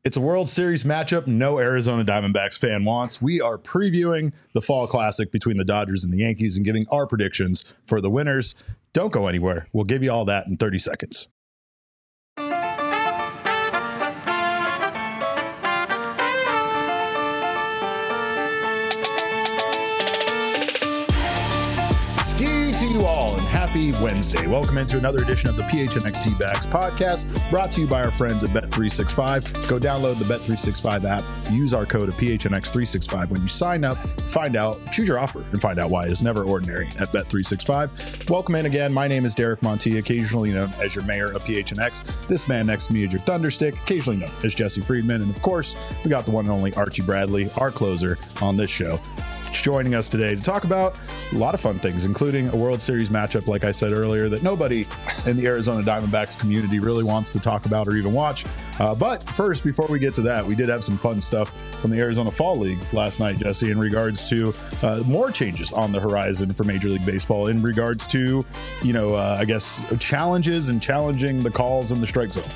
It's a World Series matchup no Arizona Diamondbacks fan wants. We are previewing the Fall Classic between the Dodgers and the Yankees and giving our predictions for the winners. Don't go anywhere. We'll give you all that in 30 seconds. To you all and happy Wednesday. Welcome into another edition of the PHNX D-Backs podcast, brought to you by our friends at Bet365. Go download the Bet365 app, use our code of PHNX365 when you sign up, find out, choose your offer, and find out why it's never ordinary at Bet365. Welcome in again. My name is Derek Montia, occasionally known as your mayor of PHNX. This man next to me is your Thunderstick, occasionally known as Jesse Friedman. And of course, we got the one and only Archie Bradley, our closer on this show, joining us today to talk about a lot of fun things, including a World Series matchup, like I said earlier, that nobody in the Arizona Diamondbacks community really wants to talk about or even watch. But first, before we get to that, we did have some fun stuff from the Arizona Fall League last night, Jesse, in regards to more changes on the horizon for Major League Baseball in regards to, I guess, challenges and challenging the calls in the strike zone.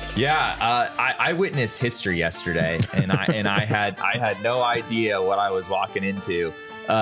Yeah, I witnessed history yesterday, and I had no idea what I was walking into.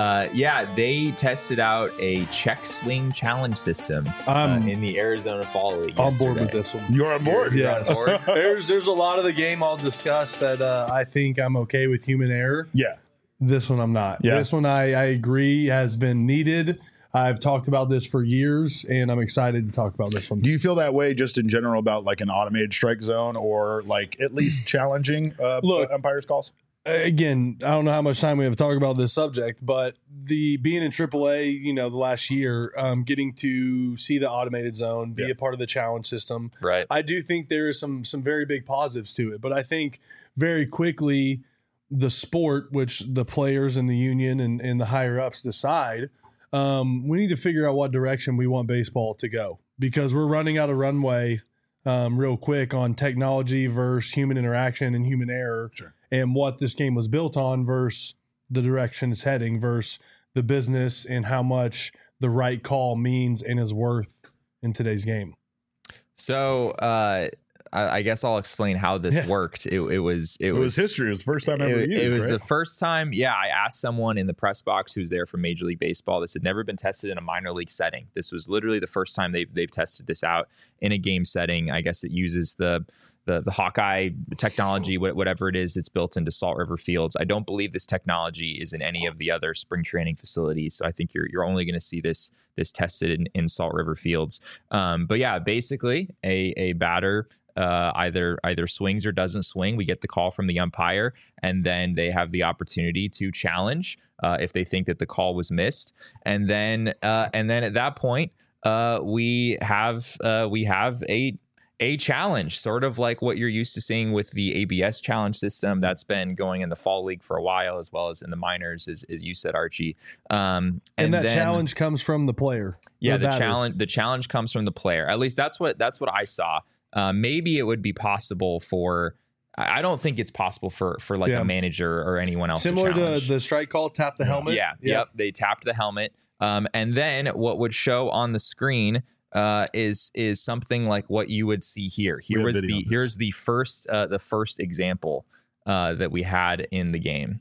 They tested out a check swing challenge system in the Arizona Fall League. On board with this one. You're on board. Yes. There's a lot of the game I'll discuss that I think I'm okay with human error. Yeah. This one I'm not. Yeah. This one I agree has been needed. I've talked about this for years, and I'm excited to talk about this one. Do you feel that way just in general about like an automated strike zone or like at least challenging umpires' calls? Again, I don't know how much time we have to talk about this subject, but being in AAA, the last year, getting to see the automated zone, be a part of the challenge system. Right. I do think there is some very big positives to it, but I think very quickly the sport, which the players and the union and the higher ups decide, we need to figure out what direction we want baseball to go, because we're running out of runway real quick on technology versus human interaction and human error. Sure. And what this game was built on versus the direction it's heading versus the business and how much the right call means and is worth in today's game. So I guess I'll explain how this worked. It was history. It was the first time ever used. It was right? the first time. Yeah, I asked someone in the press box who's there for Major League Baseball. This had never been tested in a minor league setting. This was literally the first time they've tested this out in a game setting. I guess it uses the Hawkeye technology, whatever it is, that's built into Salt River Fields. I don't believe this technology is in any of the other spring training facilities. So I think you're only going to see this tested in Salt River Fields. But yeah, basically a batter either swings or doesn't swing. We get the call from the umpire, and then they have the opportunity to challenge if they think that the call was missed. And then at that point, we have a challenge, sort of like what you're used to seeing with the ABS challenge system that's been going in the Fall League for a while, as well as in the minors, as you said, Archie. And that challenge comes from the player. Yeah, the challenge comes from the player. At least that's what I saw. Maybe it would be possible for. I don't think it's possible for like a manager or anyone else. Similar to the strike call, tap the helmet. Yeah. Yep. They tapped the helmet. And then what would show on the screen is something like what you would see here. Here's the first example that we had in the game.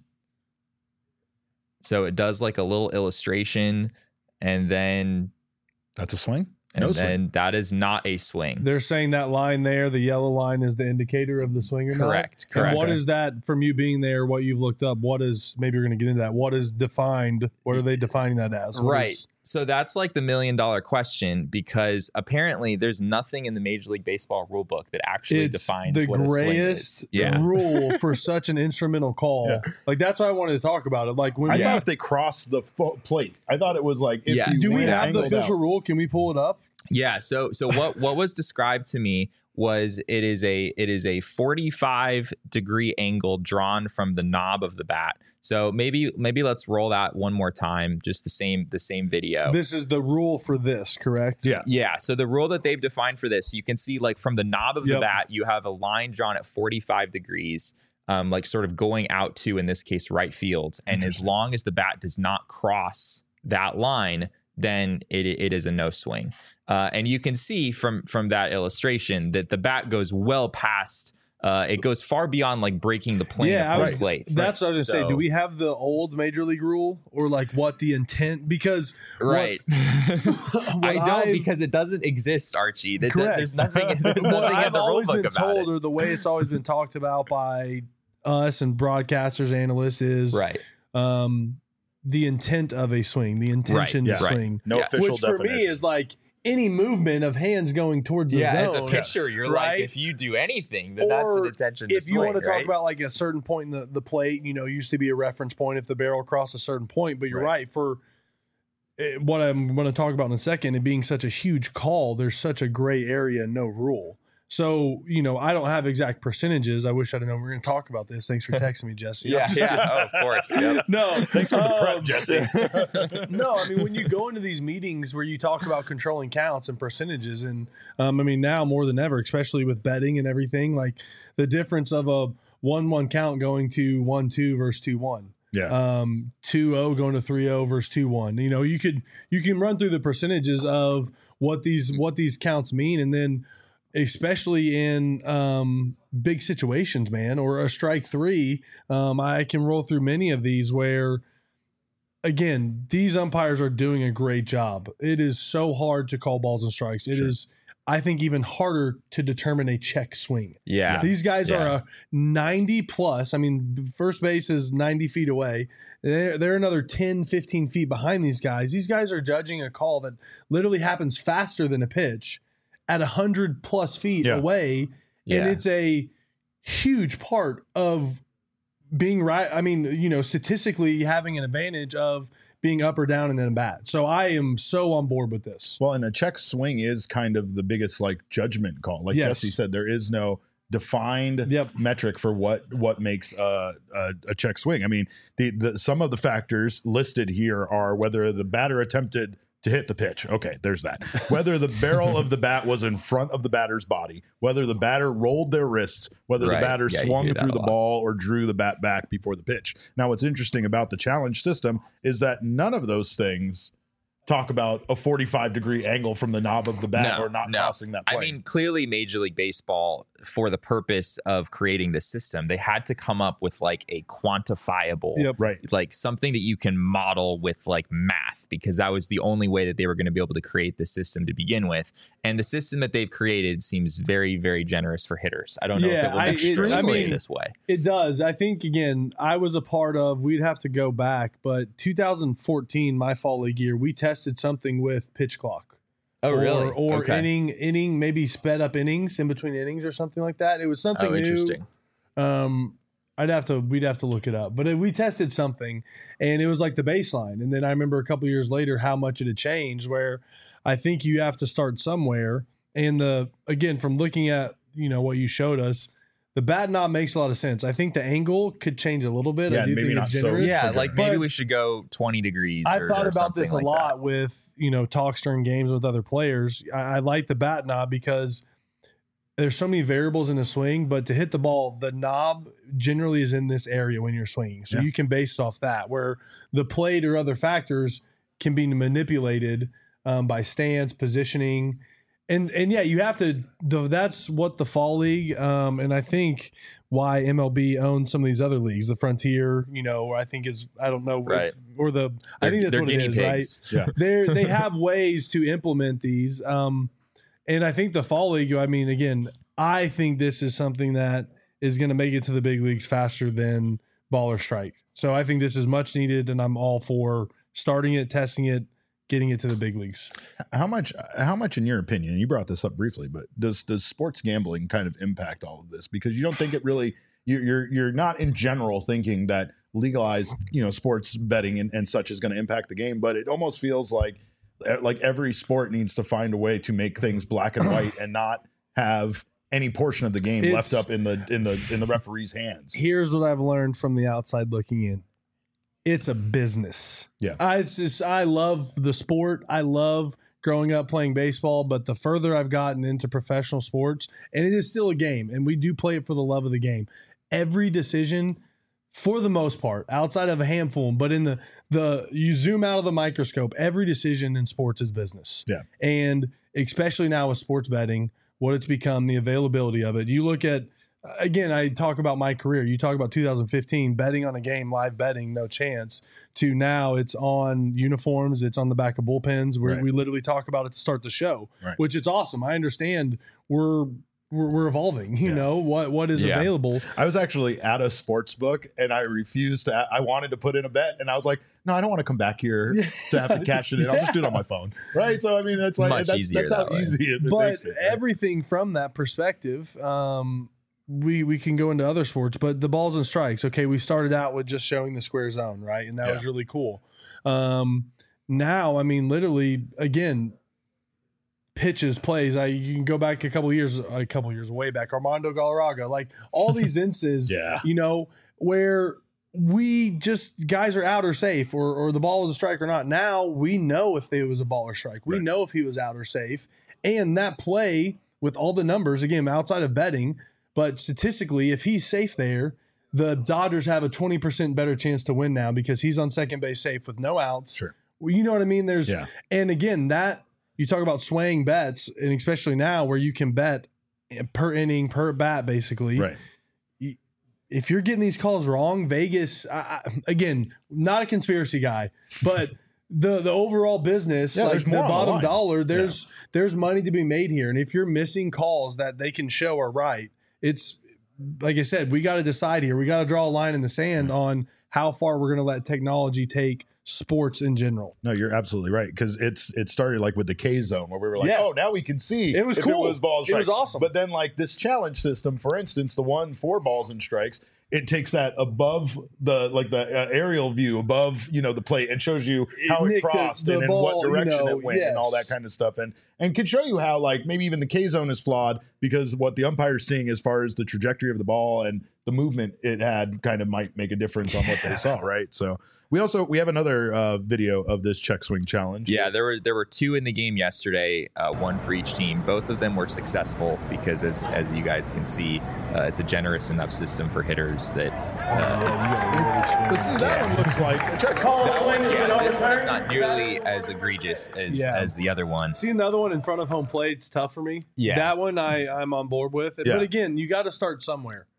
So it does like a little illustration, and then that's a swing. And then that is not a swing. They're saying that line there, the yellow line, is the indicator of the swing or not? Correct. And what is that, from you being there, what you've looked up, maybe we're going to get into that, what is defined, what are they defining that as? So that's like the $1 million question, because apparently there's nothing in the Major League Baseball rule book that actually defines what a swing is. The grayest rule for such an instrumental call. Yeah. Like, that's why I wanted to talk about it. Like, when I thought if they crossed the plate, I thought it was like, do we have the official rule? Can we pull it up? Yeah. So what was described to me was it is a 45 degree angle drawn from the knob of the bat. So maybe let's roll that one more time, just the same video. This is the rule for this, correct? Yeah. Yeah. So the rule that they've defined for this, you can see like from the knob of the bat, you have a line drawn at 45 degrees, like sort of going out to, in this case, right field. And as long as the bat does not cross that line, then it is a no swing. And you can see from that illustration that the bat goes well past it goes far beyond like breaking the plane of home plate. That's what I was going to say. Do we have the old Major League rule or like what the intent? Because I don't, because it doesn't exist, Archie. There's nothing in the rule book about it. Or the way it's always been talked about by us and broadcasters, analysts is the intent of a swing, the intention to swing. No official definition. Which for me is like any movement of hands going towards the zone. As a pitcher, you're like, if you do anything, then that's an intention to swing. If you want to talk about like a certain point in the plate, used to be a reference point if the barrel crossed a certain point. But you're right. For what I'm going to talk about in a second, it being such a huge call, there's such a gray area, no rule. So, I don't have exact percentages. I wish I'd known we were going to talk about this. Thanks for texting me, Jesse. Of course. Yep. No, thanks for the prep, Jesse. No, I mean, when you go into these meetings where you talk about controlling counts and percentages, and now more than ever, especially with betting and everything, like the difference of a 1-1 count going to 1-2 versus 2-1. Yeah. 2-0 going to 3-0 versus 2-1. You can run through the percentages of what these counts mean, and then especially in big situations, man, or a strike three. I can roll through many of these where, again, these umpires are doing a great job. It is so hard to call balls and strikes. It is, I think, even harder to determine a check swing. Yeah. These guys are a 90 plus. I mean, first base is 90 feet away. They're another 10, 15 feet behind these guys. These guys are judging a call that literally happens faster than a pitch at 100 plus feet away. And it's a huge part of being right. I mean, statistically having an advantage of being up or down in a bat. So I am so on board with this. Well, and a check swing is kind of the biggest judgment call. Like Jesse said, there is no defined metric for what makes a check swing. I mean, some of the factors listed here are whether the batter attempted to hit the pitch. Okay, there's that. Whether the barrel of the bat was in front of the batter's body, whether the batter rolled their wrists, whether the batter swung through the ball or drew the bat back before the pitch. Now, what's interesting about the challenge system is that none of those things talk about a 45-degree angle from the knob of the bat or not crossing that plane. I mean, clearly Major League Baseball, for the purpose of creating this system, they had to come up with like a quantifiable, like something that you can model with like math, because that was the only way that they were going to be able to create the system to begin with. And the system that they've created seems very, very generous for hitters. I don't know if it looks extremely this way. It does. I think, again, I was a part of, we'd have to go back, but 2014, my fall league year, we tested something with pitch clock. Oh, really? Or inning, maybe sped up innings in between innings or something like that. It was something new. Interesting. We'd have to look it up, but we tested something and it was like the baseline. And then I remember a couple of years later, how much it had changed, where I think you have to start somewhere. And again, from looking at, what you showed us, the bat knob makes a lot of sense. I think the angle could change a little bit. Yeah, maybe not so. Yeah, like maybe we should go 20 degrees. I've thought about this a lot that. with, talks during games with other players. I like the bat knob because there's so many variables in the swing, but to hit the ball, the knob generally is in this area when you're swinging. So you can base it off that, where the plate or other factors can be manipulated by stance, positioning. And you have to, that's what the fall league, and I think why MLB owns some of these other leagues, the Frontier, I think is, I don't know, I think that's what it is, pigs. Right? Yeah. They have ways to implement these. And I think the fall league, again, I think this is something that is going to make it to the big leagues faster than ball or strike. So I think this is much needed, and I'm all for starting it, testing it, getting it to the big leagues. How much in your opinion, and you brought this up briefly, but does sports gambling kind of impact all of this? Because you don't think it really, you're not in general thinking that legalized, sports betting and such is going to impact the game, but it almost feels like every sport needs to find a way to make things black and white and not have any portion of the game left up in the referee's hands. Here's what I've learned from the outside looking in. It's a business. Yeah. I love the sport. I love growing up playing baseball, but the further I've gotten into professional sports, and it is still a game, and we do play it for the love of the game. Every decision, for the most part, outside of a handful, but in the you zoom out of the microscope, every decision in sports is business. Yeah. And especially now with sports betting, what it's become, the availability of it. You look at again, I talk about my career. You talk about 2015, betting on a game, live betting, no chance, to now it's on uniforms, it's on the back of bullpens. We literally talk about it to start the show, which is awesome. I understand we're evolving, you know, what is available. I was actually at a sports book and I refused to, I wanted to put in a bet and I was like, no, I don't want to come back here to have to cash it in. I'll just do it on my phone. Right. So, I mean, that's like, that's how easy it makes it. But everything from that perspective, we can go into other sports, but the balls and strikes. Okay. We started out with just showing the square zone, right? And that was really cool. Now, I mean, literally, again, pitches, plays. You can go back a couple years way back. Armando Galarraga, like all these instances, you know, where guys are out or safe, or the ball was a strike or not. Now we know if it was a ball or strike. We know if he was out or safe. And that play with all the numbers, again, outside of betting, but statistically, if he's safe there, the Dodgers have a 20% better chance to win now because he's on second base safe with no outs. Sure. Well, you know what I mean? And again, that you talk about swaying bets, and especially now where you can bet per inning, per bat, basically. Right. If you're getting these calls wrong, Vegas, again, not a conspiracy guy, but the overall business, like the bottom dollar, there's money to be made here. And if you're missing calls that they can show are right, it's like I said, we got to decide here. We got to draw a line in the sand on how far we're going to let technology take sports in general. No, you're absolutely right, because it started like with the K zone where we were like, oh, now we can see it was if cool. It was balls. It was awesome. But then like this challenge system, for instance, the one for balls and strikes, it takes that above the aerial view above the plate and shows you how it crossed and in what direction it went and all that kind of stuff, and can show you how like maybe even the K zone is flawed because what the umpire's seeing as far as the trajectory of the ball and the movement it had kind of might make a difference on what they saw, right? So we have another video of this check swing challenge. Yeah, there were two in the game yesterday, one for each team. Both of them were successful because, as you guys can see, it's a generous enough system for hitters that. But see, that one looks like a check swing. This one is not nearly as egregious as the other one. Seeing the other one in front of home plate, it's tough for me. Yeah, that one I'm on board with. But again, you got to start somewhere.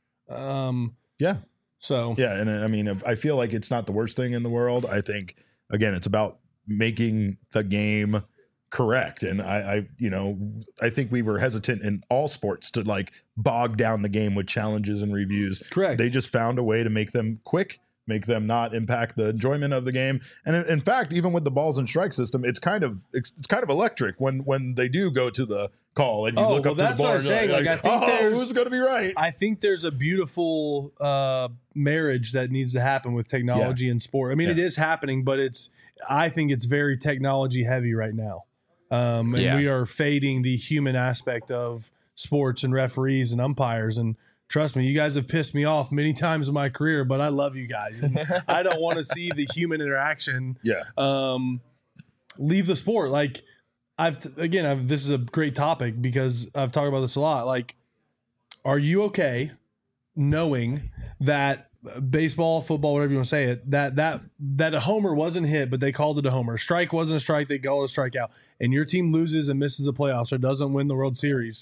So and I mean, I feel like it's not the worst thing in the world. I think again, it's about making the game correct, and I think we were hesitant in all sports to like bog down the game with challenges and reviews. Correct. They just found a way to make them quick, make them not impact the enjoyment of the game. And in fact, even with the balls and strike system, it's kind of electric when they do go to the call and you look up to the board. I think who's going to be right? I think there's a beautiful marriage that needs to happen with technology and sport. I mean, it is happening, but I think it's very technology heavy right now. And we are fading the human aspect of sports and referees and umpires. And trust me, you guys have pissed me off many times in my career, but I love you guys. And I don't want to see the human interaction leave the sport. Like this is a great topic because I've talked about this a lot. Like, are you okay knowing that baseball, football, whatever you want to say it, that a homer wasn't hit, but they called it a homer. A strike wasn't a strike, they called it a strikeout. And your team loses and misses the playoffs or doesn't win the World Series.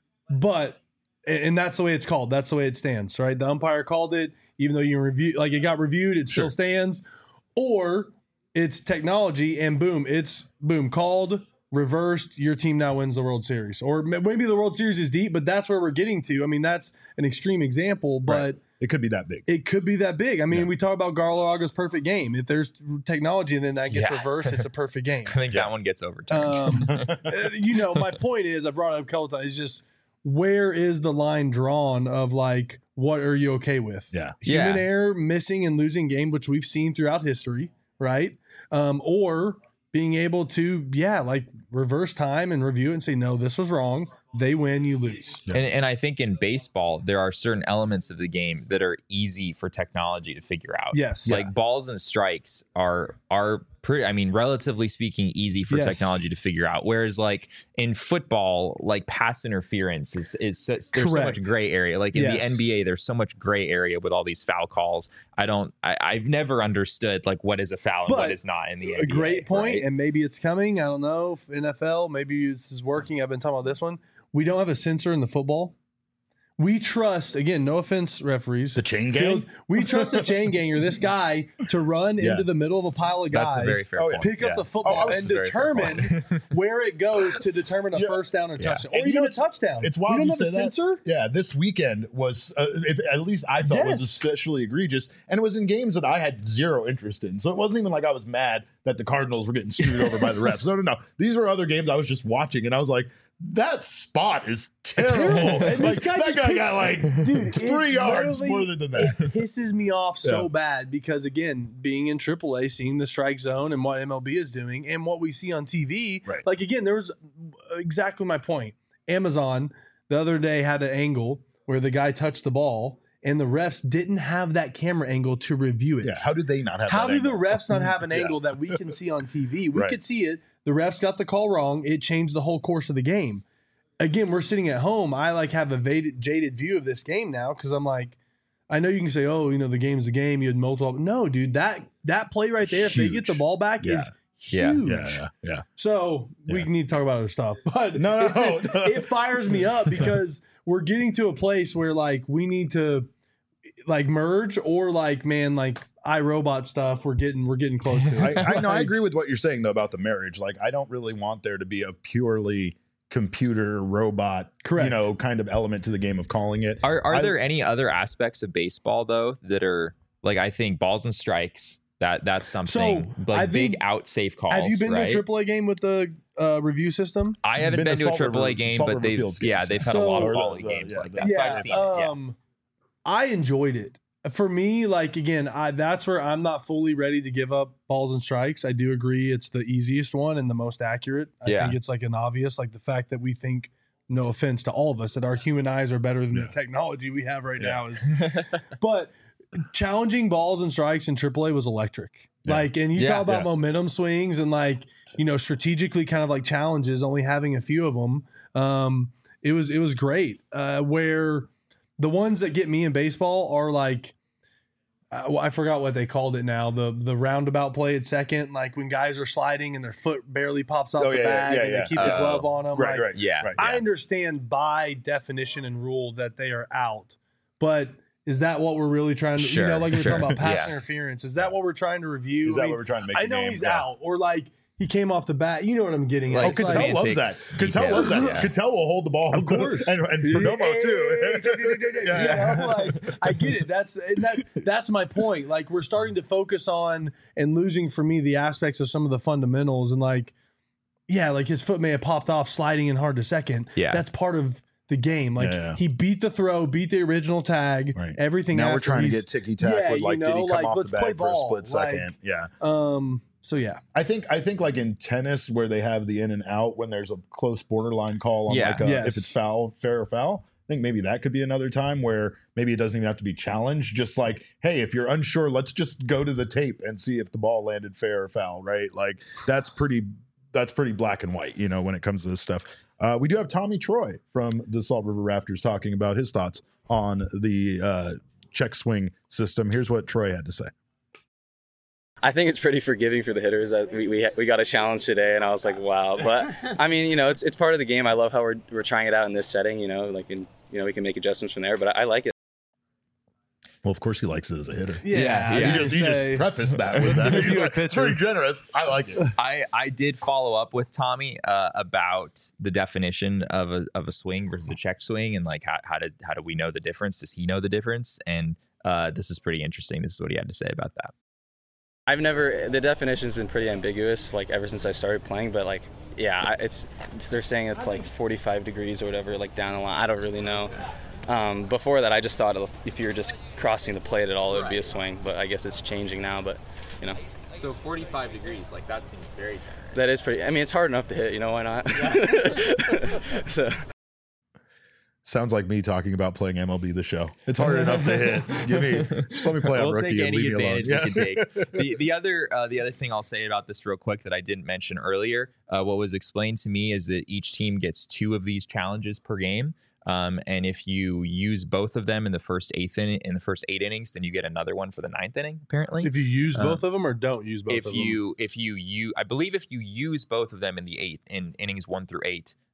And that's the way it's called. That's the way it stands, right? The umpire called it, even though it got reviewed, it still stands. Or it's technology and it's called, reversed, your team now wins the World Series. Or maybe the World Series is deep, but that's where we're getting to. I mean, that's an extreme example, but it could be that big. It could be that big. I mean, we talk about Galarraga's perfect game. If there's technology and then that gets reversed, it's a perfect game. I think that one gets overturned. My point is, I brought it up a couple times, it's just, where is the line drawn of like, what are you okay with? Human error, missing and losing game, which we've seen throughout history, right? Or being able to, reverse time and review it and say, no, this was wrong. They win, you lose. And I think in baseball, there are certain elements of the game that are easy for technology to figure out. Yes. Like balls and strikes are pretty, I mean, relatively speaking, easy for technology to figure out. Whereas like in football, like pass interference is there's so much gray area. Like in the NBA, there's so much gray area with all these foul calls. I've never understood like what is a foul and what is not in the NBA. A great point, and maybe it's coming. I don't know if NFL, maybe this is working. I've been talking about this one. We don't have a sensor in the football We trust, again, no offense, referees. The chain gang? We trust the chain ganger, this guy, to run into the middle of a pile of guys. That's a very fair point. Pick up the football and determine where it goes to determine a first down or touchdown. Or even a touchdown. It's wild we don't you have a say that. sensor? Yeah, this weekend was, at least I felt, was especially egregious. And it was in games that I had zero interest in. So it wasn't even like I was mad that the Cardinals were getting screwed over by the refs. No. These were other games I was just watching, and I was like, that spot is terrible. And Like, this guy that guy got like 3 yards further than that. It pisses me off so bad because, again, being in AAA, seeing the strike zone and what MLB is doing and what we see on TV, like, again, there was exactly my point. Amazon the other day had an angle where the guy touched the ball and the refs didn't have that camera angle to review it. Yeah, how did they not have How that do angle? the refs not have an angle that we can see on TV? We could see it. The refs got the call wrong. It changed the whole course of the game. Again, we're sitting at home. I like have a jaded view of this game now because I'm like, I know you can say, oh, the game's the game. You had multiple. No, dude, that play right there, if they get the ball back, is huge. Yeah. So we need to talk about other stuff. But No. It fires me up because we're getting to a place where like we need to like merge or like, man, like iRobot stuff. We're getting close to it. I know. I agree with what you're saying though about the marriage. Like, I don't really want there to be a purely computer robot, kind of element to the game of calling it. Are there any other aspects of baseball though that are like, I think balls and strikes, that's something like big out safe calls. Have you been to a AAA game with the review system? I haven't been to a AAA game, but they've had a lot of volley games like that. So I've seen it. I enjoyed it. For me, like, again, that's where I'm not fully ready to give up balls and strikes. I do agree it's the easiest one and the most accurate. I think it's like an obvious, like the fact that we think, no offense to all of us, that our human eyes are better than the technology we have right now is. But challenging balls and strikes in AAA was electric. Like, and you talk about momentum swings and like, strategically kind of like challenges, only having a few of them. It was great. Where the ones that get me in baseball are like, I forgot what they called it now. The roundabout play at second, like when guys are sliding and their foot barely pops off the bag and they keep the glove on them. Right. I understand by definition and rule that they are out, but is that what we're really trying to, like we're talking about pass interference? Is that what we're trying to review? Is that what we're trying to make? I know he's out, or like he came off the bat. You know what I'm getting at. Cattell loves that. Cattell loves that. Cattell will hold the ball. Of course. and Perdomo too. I get it. That's my point. Like, we're starting to focus on and losing for me the aspects of some of the fundamentals. And like, like his foot may have popped off sliding in hard to second. Yeah. That's part of the game. Like he beat the throw, beat the original tag, everything. Now we're trying to get ticky tack with like, did he come off the bag for a split second? So I think like in tennis where they have the in and out when there's a close borderline call on if it's foul, fair or foul. I think maybe that could be another time where maybe it doesn't even have to be challenged. Just like, hey, if you're unsure, let's just go to the tape and see if the ball landed fair or foul, right? Like that's pretty black and white, when it comes to this stuff. We do have Tommy Troy from the Salt River Rafters talking about his thoughts on the check swing system. Here's what Troy had to say. I think it's pretty forgiving for the hitters. We got a challenge today, and I was like, wow. But I mean, it's part of the game. I love how we're trying it out in this setting. We can make adjustments from there. But I like it. Well, of course he likes it as a hitter. Yeah. You just prefaced that with that. He's like, it's very generous. I like it. I did follow up with Tommy about the definition of a swing versus a check swing, and like how do we know the difference? Does he know the difference? And this is pretty interesting. This is what he had to say about that. The definition's been pretty ambiguous, like ever since I started playing, but like, they're saying it's like 45 degrees or whatever, like down the line. I don't really know. Before that, I just thought if you're just crossing the plate at all, it would be a swing, but I guess it's changing now, but So 45 degrees, like that seems very generous. That is pretty, I mean, it's hard enough to hit, why not? So. Sounds like me talking about playing MLB The Show. It's hard enough to hit. Just let me play on rookie. We'll take any leave advantage me alone. we can take. The other thing I'll say about this real quick that I didn't mention earlier, what was explained to me is that each team gets 2 of these challenges per game. And if you use both of them in the first 8 innings, then you get another one for the 9th inning. Apparently, if you use both of them or don't use both of them. I believe if you use both of them in the 8th in innings 1 through 8.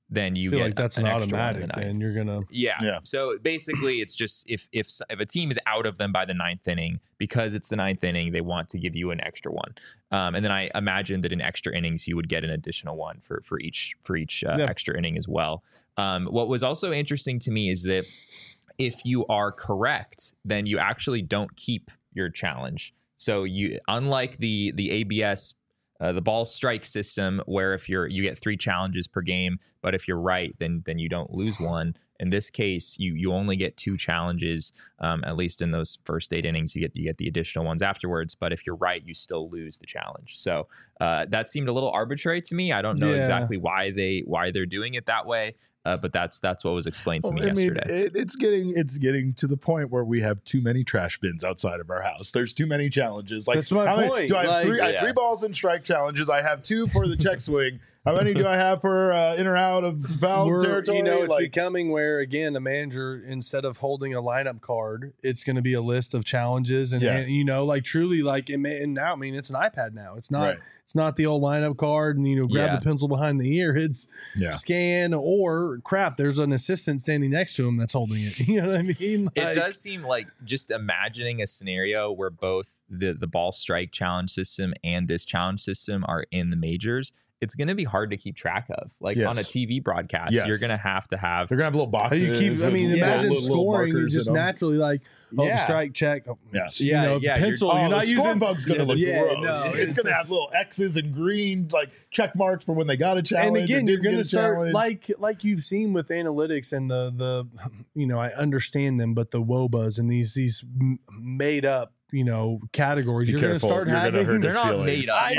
then you I feel get like that's an an extra one in automatic, the ninth. and you're gonna. Yeah. So basically, it's just if a team is out of them by the ninth inning, because it's the ninth inning, they want to give you an extra one. And then I imagine that in extra innings, you would get an additional one for each extra inning as well. What was also interesting to me is that if you are correct, then you actually don't keep your challenge. So you, unlike the ABS, the ball strike system, where if you get 3 challenges per game, but if you're right, then you don't lose one. In this case, you only get 2 challenges, at least in those first 8 innings. You get the additional ones afterwards. But if you're right, you still lose the challenge. So that seemed a little arbitrary to me. I don't know exactly why they're doing it that way. But that's what was explained to me yesterday. It's getting to the point where we have too many trash bins outside of our house. There's too many challenges. Like, that's my point. Do I have 3? I have 3 balls and strike challenges. I have 2 for the check swing. How many do I have for in or out of foul territory? It's becoming where, again, a manager, instead of holding a lineup card, it's going to be a list of challenges. And truly, like, and now, I mean, it's an iPad now. It's not it's not the old lineup card and, grab the pencil behind the ear. It's scan or crap. There's an assistant standing next to him that's holding it. You know what I mean? Like, it does seem like, just imagining a scenario where both the ball strike challenge system and this challenge system are in the majors. It's going to be hard to keep track of. Like on a TV broadcast, you're going to have. They're going to have little boxes. Imagine scoring. You just naturally strike, check. Pencil. You're not using. Scorebug's going to look gross. No, it's going to have little X's and green, like check marks for when they got a challenge. And again, you're going to start like you've seen with analytics and the I understand them, but the WOBAs and these made up categories. You're going to start having. They're not made up.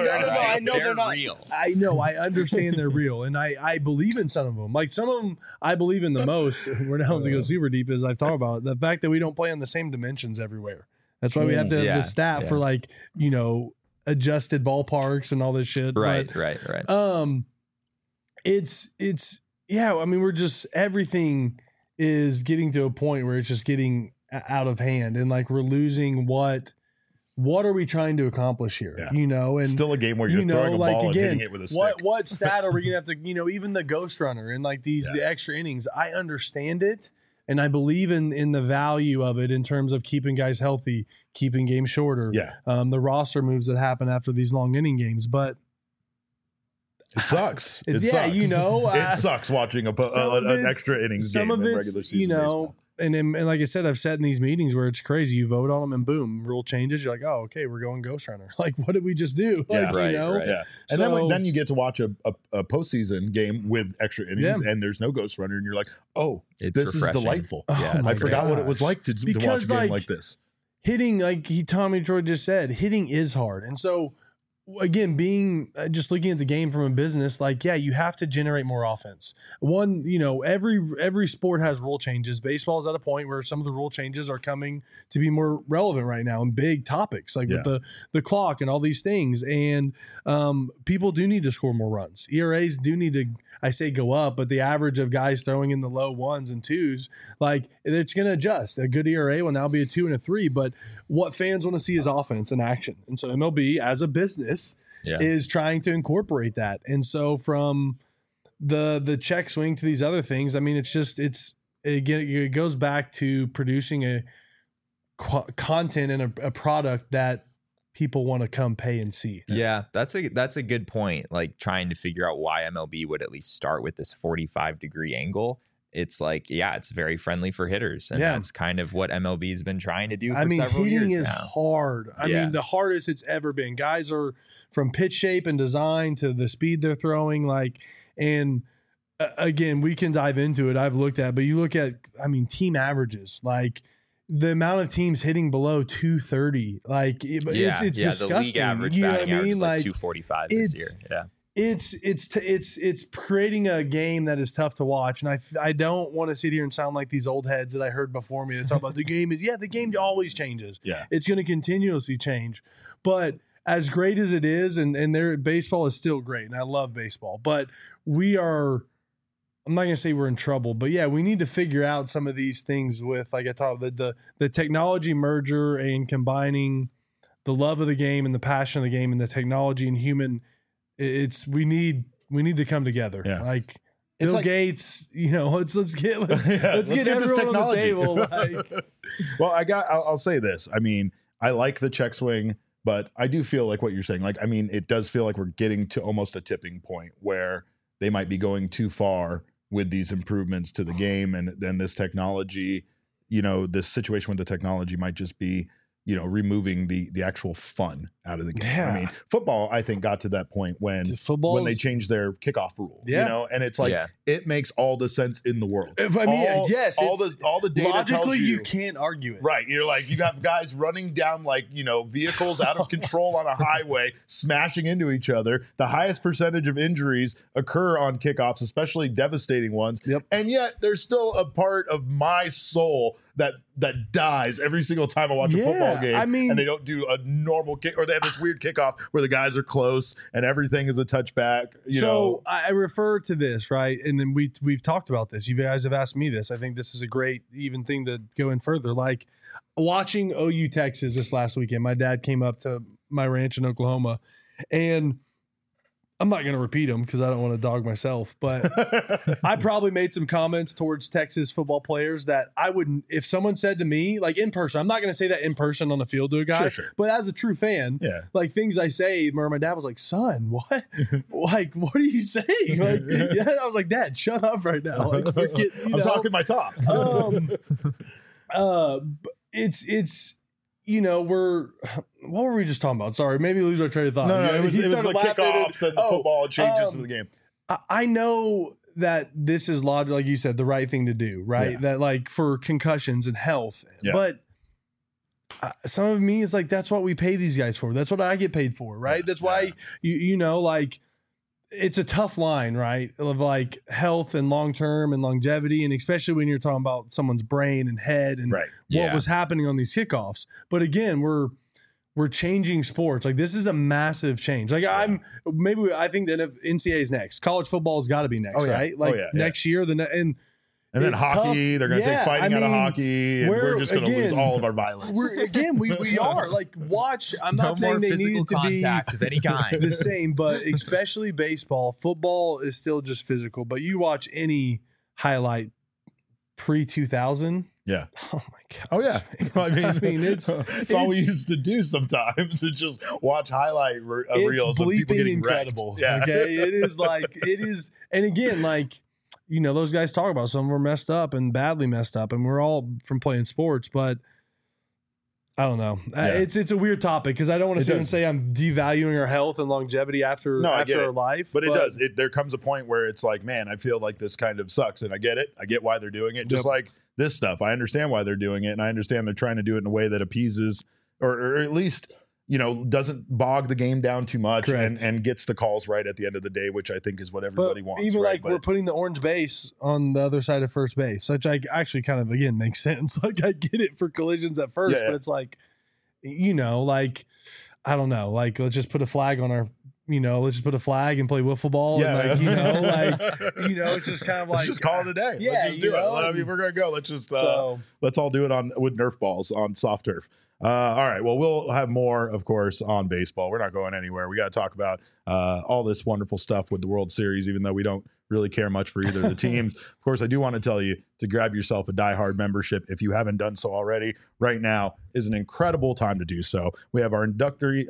I know they're not real. I know. I understand they're real, and I believe in some of them. Like some of them, I believe in the most. We're not going to go super deep, as I've talked about the fact that we don't play on the same dimensions everywhere. That's why we have to have the staff for adjusted ballparks and all this shit. Right. It's I mean, we're just, everything is getting to a point where it's just getting out of hand, and like we're losing what are we trying to accomplish here? And still a game where you're throwing a ball and hitting it with a stick. What stat are we gonna have to, even the ghost runner and like the extra innings? I understand it, and I believe in the value of it in terms of keeping guys healthy, keeping games shorter. The roster moves that happen after these long inning games, but it sucks. It sucks. It sucks watching an extra innings game in regular season baseball. And like I said, I've sat in these meetings where it's crazy. You vote on them and boom, rule changes. You're like, oh, okay, we're going Ghost Runner. Like, what did we just do? Right. And then you get to watch a postseason game with extra innings and there's no Ghost Runner. And you're like, oh, this refreshing. Is delightful. I forgot what it was like to watch a game like this. Hitting, like Tommy Troy just said, hitting is hard. And so, again, being just looking at the game from a business, you have to generate more offense. Every sport has rule changes. Baseball is at a point where some of the rule changes are coming to be more relevant right now and big topics with the clock and all these things. And people do need to score more runs. ERAs do need to, I say go up, but the average of guys throwing in the low 1s and 2s, it's going to adjust. A good ERA will now be a 2 and a 3, but what fans want to see is offense and action. And so MLB as a business is trying to incorporate that. And so from the check swing to these other things, I mean, it goes back to producing a content and a product that people want to come pay and see. Yeah, that's a good point. Like trying to figure out why MLB would at least start with this 45-degree angle. It's it's very friendly for hitters. And that's kind of what MLB has been trying to do for several years now. Hitting is hard. I mean, the hardest it's ever been. Guys are from pitch shape and design to the speed they're throwing. And again, we can dive into it. I've looked at, but you look at, team averages, the amount of teams hitting below 230, it's disgusting. The league average batting average is 245 this year. Yeah. It's creating a game that is tough to watch, and I don't want to sit here and sound like these old heads that I heard before me that talk about the game. The game always changes. Yeah, it's going to continuously change. But as great as it is, and their baseball is still great, and I love baseball. But we are. I'm not going to say we're in trouble, but we need to figure out some of these things with, like I talked about, the technology merger and combining the love of the game and the passion of the game and the technology and human. We need to come together. It's Bill Gates, let's get let's get this everyone on the technology. table. Well, I'll say this. I mean, I like the check swing, but I do feel like what you're saying. Like, I mean, it does feel like we're getting to almost a tipping point where they might be going too far with these improvements to the game, and then this technology, this situation with the technology might just be, removing the actual fun out of the game. Yeah. I mean, football, I think, got to that point when they changed their kickoff rule. And it's like it makes all the sense in the world. I mean, yes, all the data logically tells you can't argue it. Right. You're like, you got guys running down vehicles out of control on a highway, smashing into each other. The highest percentage of injuries occur on kickoffs, especially devastating ones. Yep. And yet there's still a part of my soul that dies every single time I watch a football game. I mean, and they don't do a normal kick, or they have this weird kickoff where the guys are close and everything is a touchback. So I refer to this, right? And then we've talked about this. You guys have asked me this. I think this is a great even thing to go in further. Like watching OU Texas this last weekend, my dad came up to my ranch in Oklahoma, and I'm not going to repeat them because I don't want to dog myself, but I probably made some comments towards Texas football players that I wouldn't, if someone said to me, like in person, I'm not going to say that in person on the field to a guy, Sure. but as a true fan, like things I say, where my dad was like, son, what? Like, what are you saying? Like, I was like, Dad, shut up right now. Like, we're getting, I'm talking my talk. It's what were we just talking about? Sorry, maybe lose our train of thought. No, it was the kickoffs and the football changes of the game. I know that this is logic, like you said, the right thing to do, right? Yeah. That like for concussions and health, but some of me is like, that's what we pay these guys for. That's what I get paid for, right? That's why like it's a tough line, right? Of like health and long-term and longevity. And especially when you're talking about someone's brain and head and what was happening on these kickoffs. But again, we're changing sports. Like this is a massive change. Like I think that if NCAA is next, college football has got to be next, right? Like next year, and then hockey, they're going to take fighting out of hockey, and we're just going to lose all of our violence. We are like watch. I'm not saying they need to be of any kind the same, but especially baseball, football is still just physical. But you watch any highlight pre-2000. Yeah. Oh my god. Oh yeah. I mean, it's all we used to do sometimes. It's just watch highlight reels of people getting incredible. Wrecked. Yeah. Okay. It is. And again, like, those guys talk about some were messed up and badly messed up, and we're all from playing sports, but I don't know. Yeah. It's a weird topic because I don't want to sit and say I'm devaluing our health and longevity after our life. But it does. There comes a point where it's like, man, I feel like this kind of sucks, and I get it. I get why they're doing it. Just like this stuff, I understand why they're doing it, and I understand they're trying to do it in a way that appeases or at least doesn't bog the game down too much and gets the calls right at the end of the day, which I think is what everybody wants. Even we're putting the orange base on the other side of first base, which I actually kind of, again, makes sense. Like I get it for collisions at first, but it's like, like, I don't know, like let's just put a flag on our, let's just put a flag and play wiffle ball. Yeah. And it's just kind of like, let's just call it a day. Yeah, let's just do it. I mean, we're going to go. Let's just, let's all do it with Nerf balls on soft turf. All right. Well, we'll have more, of course, on baseball. We're not going anywhere. We got to talk about all this wonderful stuff with the World Series, even though we don't really care much for either of the teams. Of course, I do want to tell you to grab yourself a Die Hard membership if you haven't done so already. Right now is an incredible time to do so. We have our introductory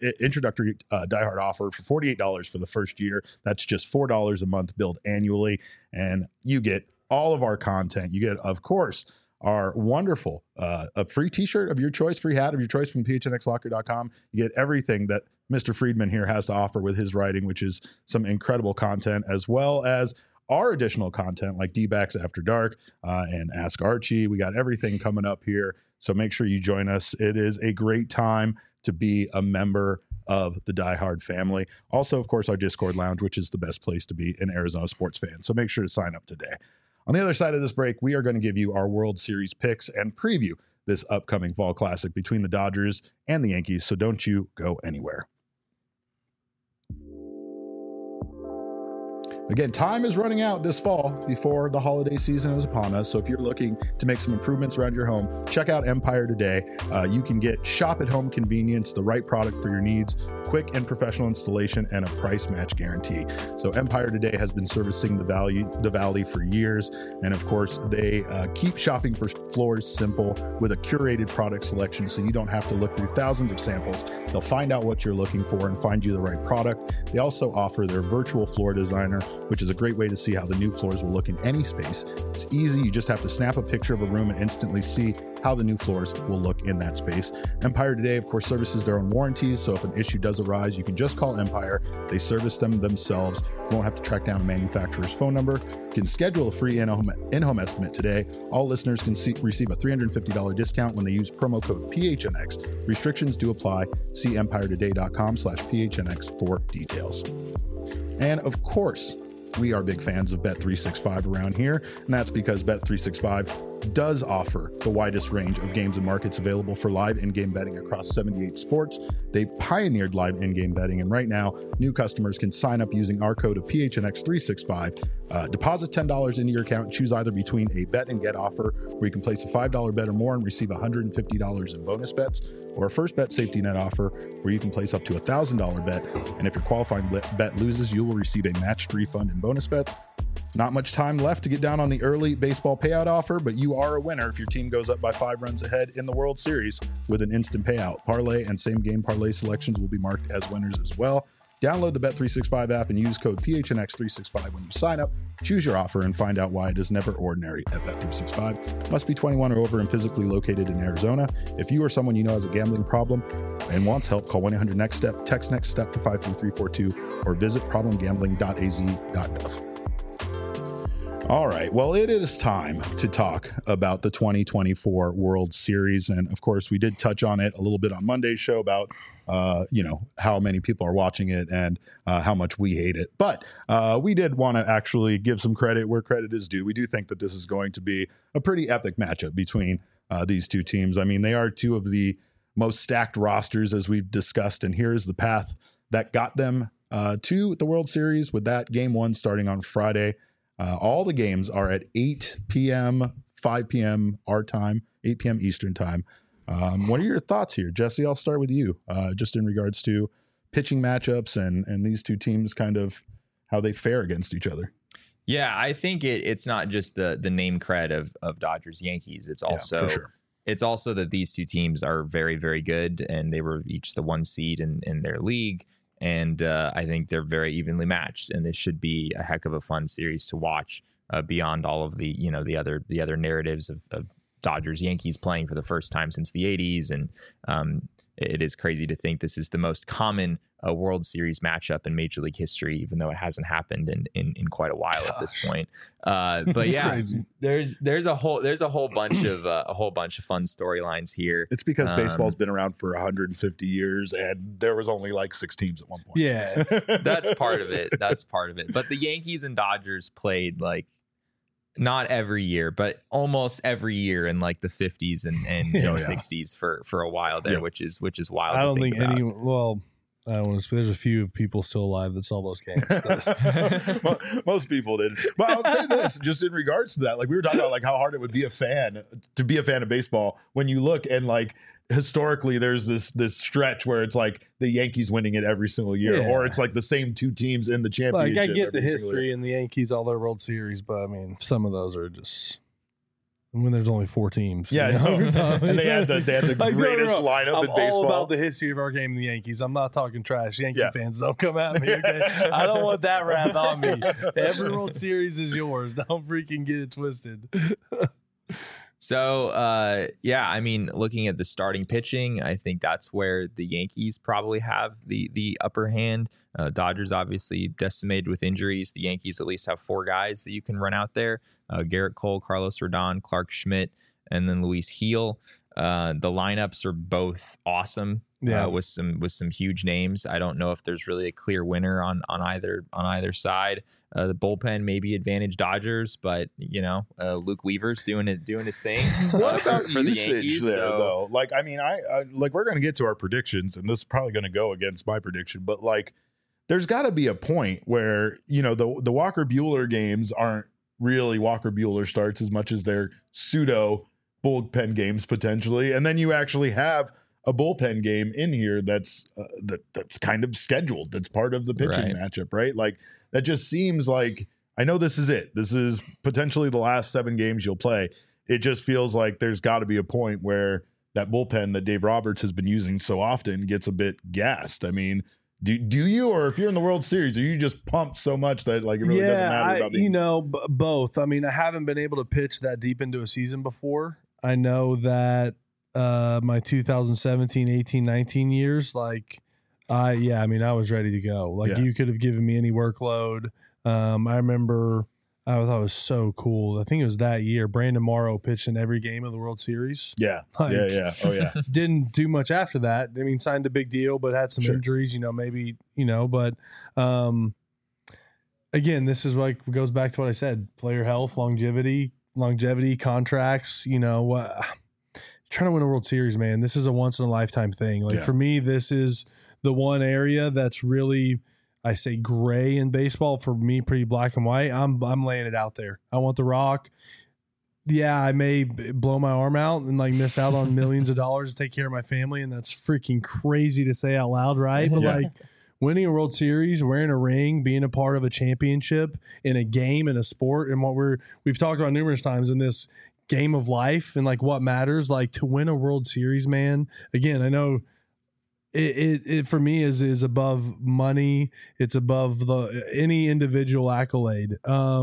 Die Hard offer for $48 for the first year. That's just $4 a month billed annually, and you get all of our content. You get, of course, our wonderful a free t-shirt of your choice, free hat of your choice from phnxlocker.com. You get everything that Mr. Friedman here has to offer with his writing, which is some incredible content, as well as our additional content like D-Backs After Dark and Ask Archie. We got everything coming up here, so make sure you join us. It is a great time to be a member of the Die Hard family. Also, of course, our Discord lounge, which is the best place to be an Arizona sports fan. So make sure to sign up today. On the other side of this break, we are going to give you our World Series picks and preview this upcoming fall classic between the Dodgers and the Yankees, so don't you go anywhere. Again, time is running out this fall before the holiday season is upon us. So if you're looking to make some improvements around your home, check out Empire today. You can get shop-at-home convenience, the right product for your needs, quick and professional installation, and a price match guarantee. So Empire today has been servicing the Valley for years. And of course, they keep shopping for floors simple with a curated product selection, so you don't have to look through thousands of samples. They'll find out what you're looking for and find you the right product. They also offer their virtual floor designer, which is a great way to see how the new floors will look in any space. It's easy. You just have to snap a picture of a room and instantly see how the new floors will look in that space. Empire today, of course, services their own warranties. So if an issue does arise, you can just call Empire. They service them themselves. You won't have to track down a manufacturer's phone number. You can schedule a free in-home estimate today. All listeners can receive a $350 discount when they use promo code PHNX. Restrictions do apply. See empiretoday.com/PHNX for details. And of course, we are big fans of Bet365 around here, and that's because Bet365 does offer the widest range of games and markets available for live in-game betting across 78 sports. They pioneered live in-game betting, and right now, new customers can sign up using our code of PHNX365, deposit $10 into your account, choose either between a bet and get offer, where you can place a $5 bet or more and receive $150 in bonus bets, or a first bet safety net offer, where you can place up to a $1,000 bet, and if your qualifying bet loses, you will receive a matched refund in bonus bets. Not much time left to get down on the early baseball payout offer, but you are a winner if your team goes up by 5 runs ahead in the World Series with an instant payout. Parlay and same game parlay selections will be marked as winners as well. Download the Bet365 app and use code PHNX365 when you sign up. Choose your offer and find out why it is never ordinary at Bet365. Must be 21 or over and physically located in Arizona. If you or someone you know has a gambling problem and wants help, call 1-800-NEXT-STEP, text NEXT STEP to 53342, or visit problemgambling.az.gov. All right. Well, it is time to talk about the 2024 World Series. And of course, we did touch on it a little bit on Monday's show about, how many people are watching it and how much we hate it. But we did want to actually give some credit where credit is due. We do think that this is going to be a pretty epic matchup between these two teams. I mean, they are two of the most stacked rosters, as we've discussed. And here's the path that got them to the World Series, with that game one starting on Friday. All the games are at 8 p.m., 5 p.m. our time, 8 p.m. Eastern time. What are your thoughts here, Jesse? I'll start with you, just in regards to pitching matchups and these two teams, kind of how they fare against each other. Yeah, I think it's not just the name cred of Dodgers Yankees. It's also for sure. It's also that these two teams are very, very good, and they were each the 1 seed in their league. And I think they're very evenly matched, and this should be a heck of a fun series to watch. Beyond all of the the other narratives of Dodgers Yankees playing for the first time since the 80s, and it is crazy to think this is the most common World Series matchup in Major League history, even though it hasn't happened in quite a while at this point. But yeah, crazy. there's a whole bunch of fun storylines here. It's because baseball's been around for 150 years, and there was only like 6 teams at one point. Yeah, that's part of it. But the Yankees and Dodgers played like not every year, but almost every year in like the 50s and 60s for a while there, which is wild. I don't think any. Well, I don't want to. There's a few people still alive that saw those games. Most people did. But I'll say this, just in regards to that, like we were talking about, like how hard it would be to be a fan of baseball when you look and like historically there's this stretch where it's like the Yankees winning it every single year, or it's like the same 2 teams in the championship. Like I get the history and the Yankees, all their World Series, but I mean, some of those are just. When there's only 4 teams. Yeah, and they had the greatest lineup in baseball. I'm all about the history of our game, the Yankees. I'm not talking trash. Yankee fans, don't come at me, okay? I don't want that wrath on me. Every World Series is yours. Don't freaking get it twisted. So, I mean, looking at the starting pitching, I think that's where the Yankees probably have the upper hand. Dodgers obviously decimated with injuries. The Yankees at least have 4 guys that you can run out there. Garrett Cole, Carlos Rodon, Clark Schmidt, and then Luis Gil. The lineups are both awesome. With some huge names. I don't know if there's really a clear winner on either side. The bullpen maybe advantage Dodgers, but Luke Weaver's doing his thing. What about for usage the Yankees, though? Like, I mean, I like we're going to get to our predictions, and this is probably going to go against my prediction, but like there's got to be a point where, you know, the Walker Buehler games aren't really Walker Buehler starts as much as they're pseudo bullpen games potentially. And then you actually have a bullpen game in here that's kind of scheduled. That's part of the pitching matchup, right? Like that just seems like, I know this is it. This is potentially the last 7 games you'll play. It just feels like there's got to be a point where that bullpen that Dave Roberts has been using so often gets a bit gassed. I mean, do you, or if you're in the World Series, are you just pumped so much that like it really doesn't matter about you know, both. I mean, I haven't been able to pitch that deep into a season before. I know that my 2017, 18, 19 years, like I was ready to go. Like you could have given me any workload. I remember I thought it was so cool. I think it was that year. Brandon Morrow pitched in every game of the World Series. Yeah. Like, yeah. Oh, yeah. Didn't do much after that. I mean, signed a big deal, but had some injuries, you know, maybe, you know, but again, this is like goes back to what I said, player health, longevity, contracts, you know, trying to win a World Series, man, this is a once in a lifetime thing. Like for me, this is the one area that's really, I say gray in baseball. For me, pretty black and white. I'm laying it out there. I want the Rock. Yeah, I may blow my arm out and like miss out on millions of dollars to take care of my family, and that's freaking crazy to say out loud, right? But like winning a World Series, wearing a ring, being a part of a championship in a game, in a sport, and what we've talked about numerous times in this game of life and like what matters, like to win a World Series, man. Again, I know it for me is above money. It's above any individual accolade.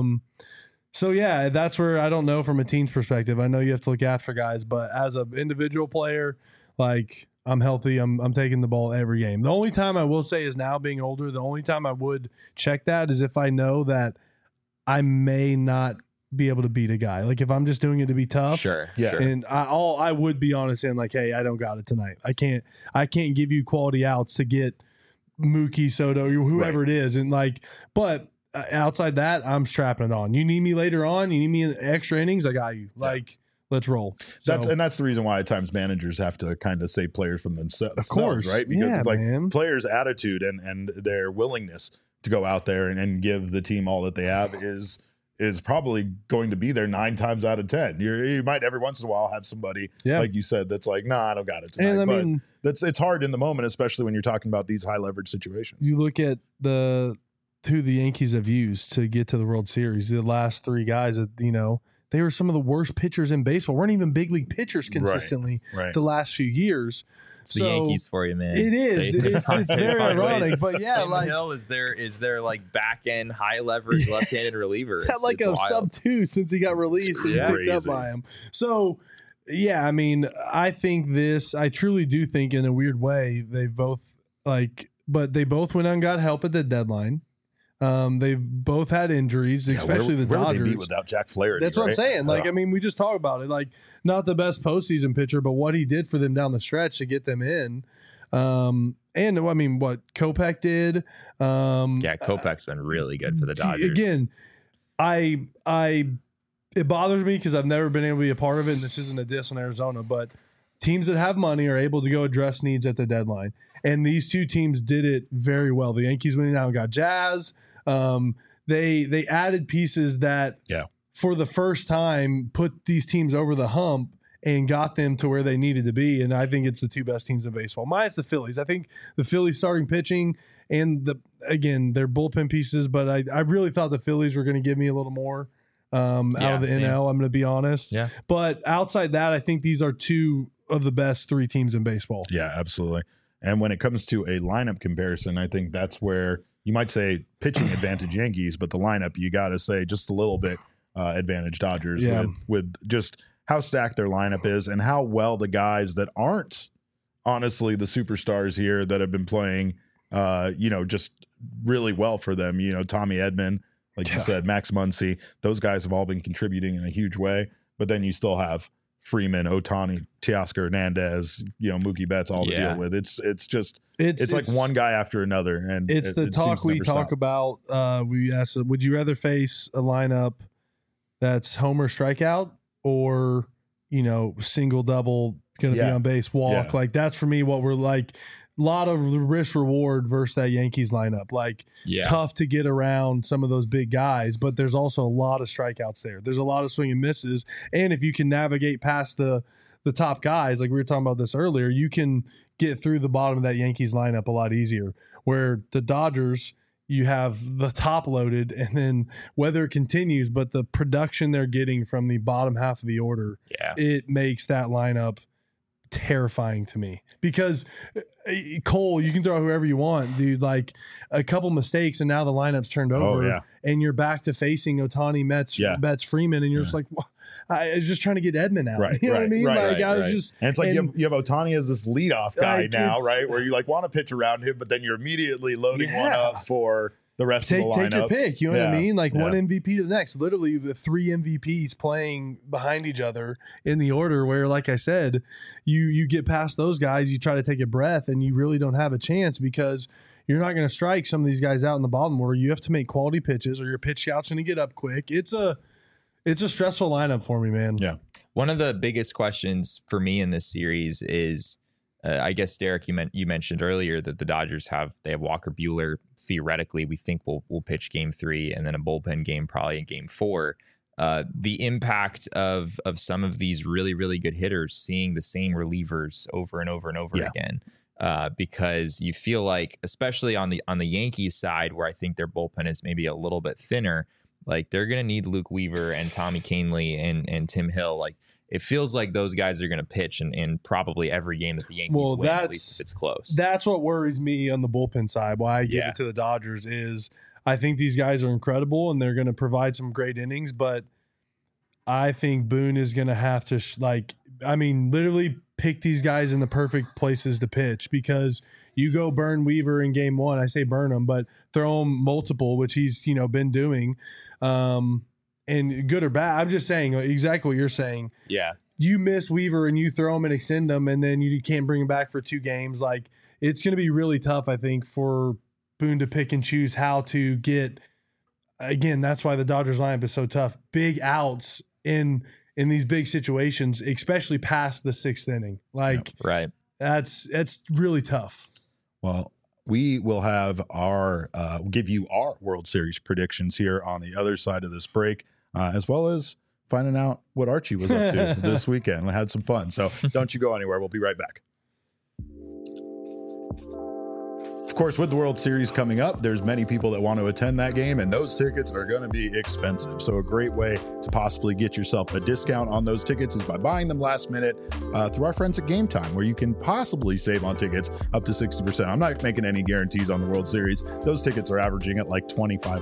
So yeah, that's where I don't know from a team's perspective. I know you have to look after guys, but as an individual player, like I'm healthy. I'm taking the ball every game. The only time I will say is now being older, the only time I would check that is if I know that I may not be able to beat a guy. Like if I'm just doing it to be tough. Sure. Yeah. And I would be honest and like, hey, I don't got it tonight. I can't give you quality outs to get Mookie, Soto, whoever it is. And like, but outside that, I'm strapping it on. You need me later on, you need me in extra innings, I got you. Like, let's roll. That's the reason why at times managers have to kind of save players from themselves. Of course. Right? Because it's like man. Players' attitude and their willingness to go out there and give the team all that they have is probably going to be there 9 times out of 10. You might every once in a while have somebody, like you said, that's like, nah, I don't got it tonight. And it's hard in the moment, especially when you're talking about these high leverage situations. You look at who the Yankees have used to get to the World Series. The last 3 guys that, you know, they were some of the worst pitchers in baseball. Weren't even big league pitchers consistently the last few years. It's the Yankees for you, man. It is. It's very ironic, but yeah, Tim like Hill is their like back end high leverage left-handed reliever. He's had like a sub-2 since he got released and picked up by him. So yeah, I mean, I truly do think in a weird way they both went out and got help at the deadline. They've both had injuries, especially the Dodgers. Where they beat without Jack Flaherty? That's what I'm saying. Like, I mean, we just talked about it. Like, not the best postseason pitcher, but what he did for them down the stretch to get them in. And I mean, what Kopech did. Kopech's been really good for the Dodgers. Again, it bothers me because I've never been able to be a part of it, and this isn't a diss on Arizona, but teams that have money are able to go address needs at the deadline. And these 2 teams did it very well. The Yankees went out and got Jazz. They added pieces that for the first time put these teams over the hump and got them to where they needed to be. And I think it's the 2 best teams in baseball, minus the Phillies. I think the Phillies starting pitching and their bullpen pieces, but I really thought the Phillies were going to give me a little more out of the NL. I'm going to be honest. Yeah. But outside that, I think these are 2 of the best 3 teams in baseball. Yeah, absolutely. And when it comes to a lineup comparison, I think that's where you might say pitching advantage Yankees, but the lineup, you got to say just a little bit advantage Dodgers with just how stacked their lineup is and how well the guys that aren't honestly the superstars here that have been playing, just really well for them. You know, Tommy Edman, like you said, Max Muncy, those guys have all been contributing in a huge way. But then you still have Freeman, Ohtani, Teoscar Hernandez, Mookie Betts, all to deal with. It's like one guy after another, and it's the talk we talk about. We asked, would you rather face a lineup that's homer strikeout or single double going to be on base, walk. Like that's for me what we're like. A lot of risk reward versus that Yankees lineup. Like tough to get around some of those big guys, but there's also a lot of strikeouts there. There's a lot of swing and misses. And if you can navigate past the top guys, like we were talking about this earlier, you can get through the bottom of that Yankees lineup a lot easier. Where the Dodgers, you have the top loaded, and then whether it continues, but the production they're getting from the bottom half of the order, it makes that lineup terrifying to me. Because Cole, you can throw whoever you want, dude. Like a couple mistakes, and now the lineup's turned over, and you're back to facing Ohtani, Betts, Freeman, and you're just like, well, I was just trying to get Edman out. Right, you know what I mean? Just, and it's like you have Ohtani as this leadoff guy now, right? Where you like want to pitch around him, but then you're immediately loading one up for the rest of the lineup. Take your pick. You know what I mean? Like one MVP to the next. Literally the 3 MVPs playing behind each other in the order where, like I said, you get past those guys, you try to take a breath, and you really don't have a chance because you're not going to strike some of these guys out in the bottom order. You have to make quality pitches or your pitch out's going to get up quick. It's a stressful lineup for me, man. Yeah. One of the biggest questions for me in this series is, I guess, Derek, you mentioned earlier that the Dodgers have Walker Buehler. Theoretically, we think we'll pitch game 3 and then a bullpen game probably in game 4. The impact of some of these really, really good hitters seeing the same relievers over and over and over again. Because you feel like, especially on the Yankees side, where I think their bullpen is maybe a little bit thinner, like they're going to need Luke Weaver and Tommy Kahnle and Tim Hill. Like it feels like those guys are going to pitch in probably every game that the Yankees win, at least if it's close. That's what worries me on the bullpen side. Why I give it to the Dodgers is I think these guys are incredible and they're going to provide some great innings, but I think Boone is going to have to literally pick these guys in the perfect places to pitch, because you go burn Weaver in game 1. I say burn him, but throw him multiple, which he's been doing. And good or bad, I'm just saying exactly what you're saying. Yeah. You miss Weaver and you throw him and extend him, and then you can't bring him back for 2 games. Like it's going to be really tough, I think, for Boone to pick and choose how to get. Again, that's why the Dodgers lineup is so tough. Big outs in these big situations, especially past the 6th inning. Like that's really tough. Well, we will have give you our World Series predictions here on the other side of this break, as well as finding out what Archie was up to this weekend. We had some fun. So don't you go anywhere. We'll be right back. Of course, with the World Series coming up, there's many people that want to attend that game, and those tickets are going to be expensive. So a great way to possibly get yourself a discount on those tickets is by buying them last minute through our friends at Game Time, where you can possibly save on tickets up to 60%. I'm not making any guarantees on the World Series. Those tickets are averaging at like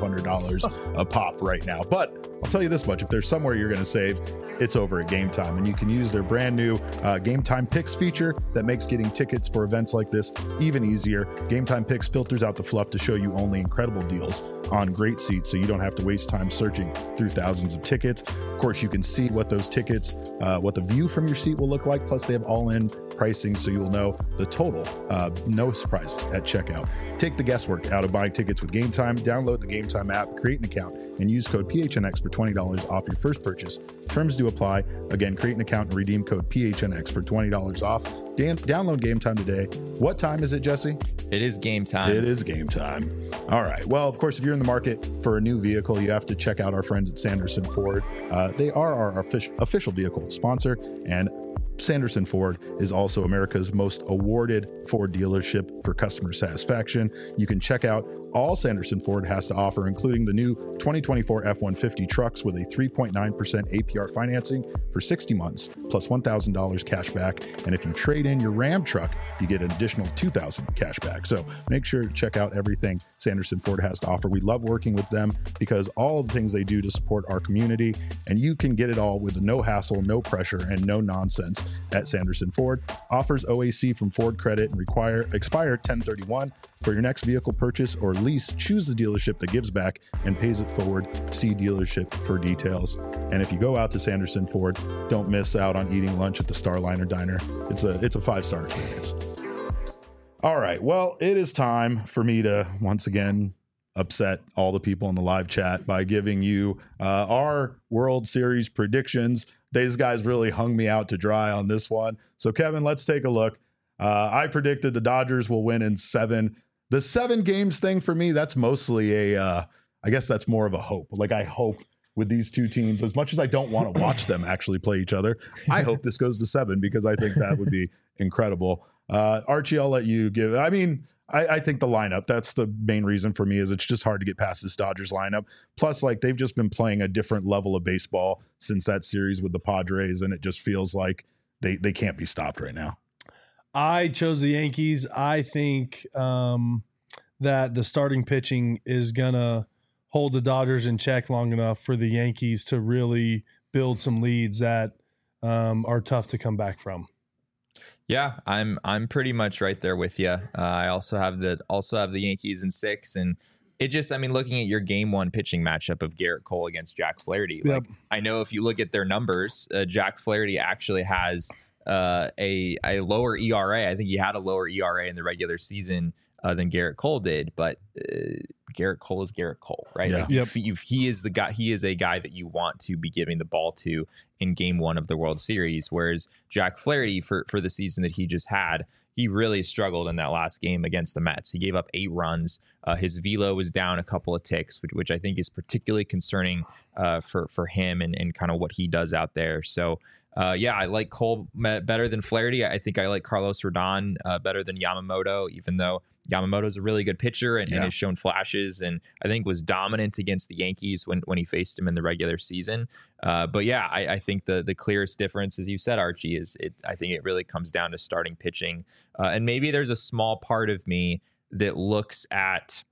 $2,500 a pop right now. But I'll tell you this much, if there's somewhere you're going to save, it's over at Game Time, and you can use their brand new Game Time Picks feature that makes getting tickets for events like this even easier. Game Time Picks filters out the fluff to show you only incredible deals on great seats, so you don't have to waste time searching through thousands of tickets. Of course, you can see what those tickets, what the view from your seat will look like. Plus, they have all-in pricing, so you will know the total. No surprises at checkout. Take the guesswork out of buying tickets with Game Time. Download the Game Time app, create an account, and use code PHNX for $20 off your first purchase. Terms do apply. Again, create an account and redeem code PHNX for $20 off. Download Game Time today. What time is it, Jesse? It is game time. It is game time. All right. Well, of course, if you're in the market for a new vehicle, you have to check out our friends at Sanderson Ford. They are our official vehicle sponsor, and Sanderson Ford is also America's most awarded Ford dealership for customer satisfaction. You can check out all Sanderson Ford has to offer, including the new 2024 F-150 trucks with a 3.9% APR financing for 60 months, plus $1,000 cash back. And if you trade in your Ram truck, you get an additional $2,000 cash back. So make sure to check out everything Sanderson Ford has to offer. We love working with them because all the things they do to support our community, and you can get it all with no hassle, no pressure, and no nonsense at Sanderson Ford. Offers OAC from Ford Credit and expire 10/31. For your next vehicle purchase or lease, choose the dealership that gives back and pays it forward. See dealership for details. And if you go out to Sanderson Ford, don't miss out on eating lunch at the Starliner Diner. It's a 5-star experience. All right. Well, it is time for me to once again upset all the people in the live chat by giving you our World Series predictions. these guys really hung me out to dry on this one. So, Kevin, let's take a look. I predicted the Dodgers will win in 7. The 7 games thing for me, that's mostly I guess that's more of a hope. Like, I hope with these two teams, as much as I don't want to watch them actually play each other, I hope this goes to 7 because I think that would be incredible. Archie, I'll let you give. I mean, I think the lineup, that's the main reason for me, is it's just hard to get past this Dodgers lineup. Plus, like, they've just been playing a different level of baseball since that series with the Padres, and it just feels like they can't be stopped right now. I chose the Yankees. I think that the starting pitching is going to hold the Dodgers in check long enough for the Yankees to really build some leads that are tough to come back from. Yeah, I'm pretty much right there with you. I also have the Yankees in 6, and it just, I mean, looking at your game 1 pitching matchup of Garrett Cole against Jack Flaherty, like, I know if you look at their numbers, Jack Flaherty actually has a lower ERA. I think he had a lower ERA in the regular season than Garrett Cole did, but Garrett Cole is Garrett Cole, right? Yeah. Like, he is the guy. He is a guy that you want to be giving the ball to in game 1 of the World Series. Whereas Jack Flaherty, for the season that he just had, he really struggled in that last game against the Mets. He gave up 8 runs. His velo was down a couple of ticks, which I think is particularly concerning for him and kind of what he does out there. So, yeah, I like Cole better than Flaherty. I think I like Carlos Rodon better than Yamamoto, even though Yamamoto's a really good pitcher and has shown flashes, and I think was dominant against the Yankees when he faced him in the regular season. But yeah, I think the clearest difference, as you said, Archie, is I think it really comes down to starting pitching. And maybe there's a small part of me that looks at,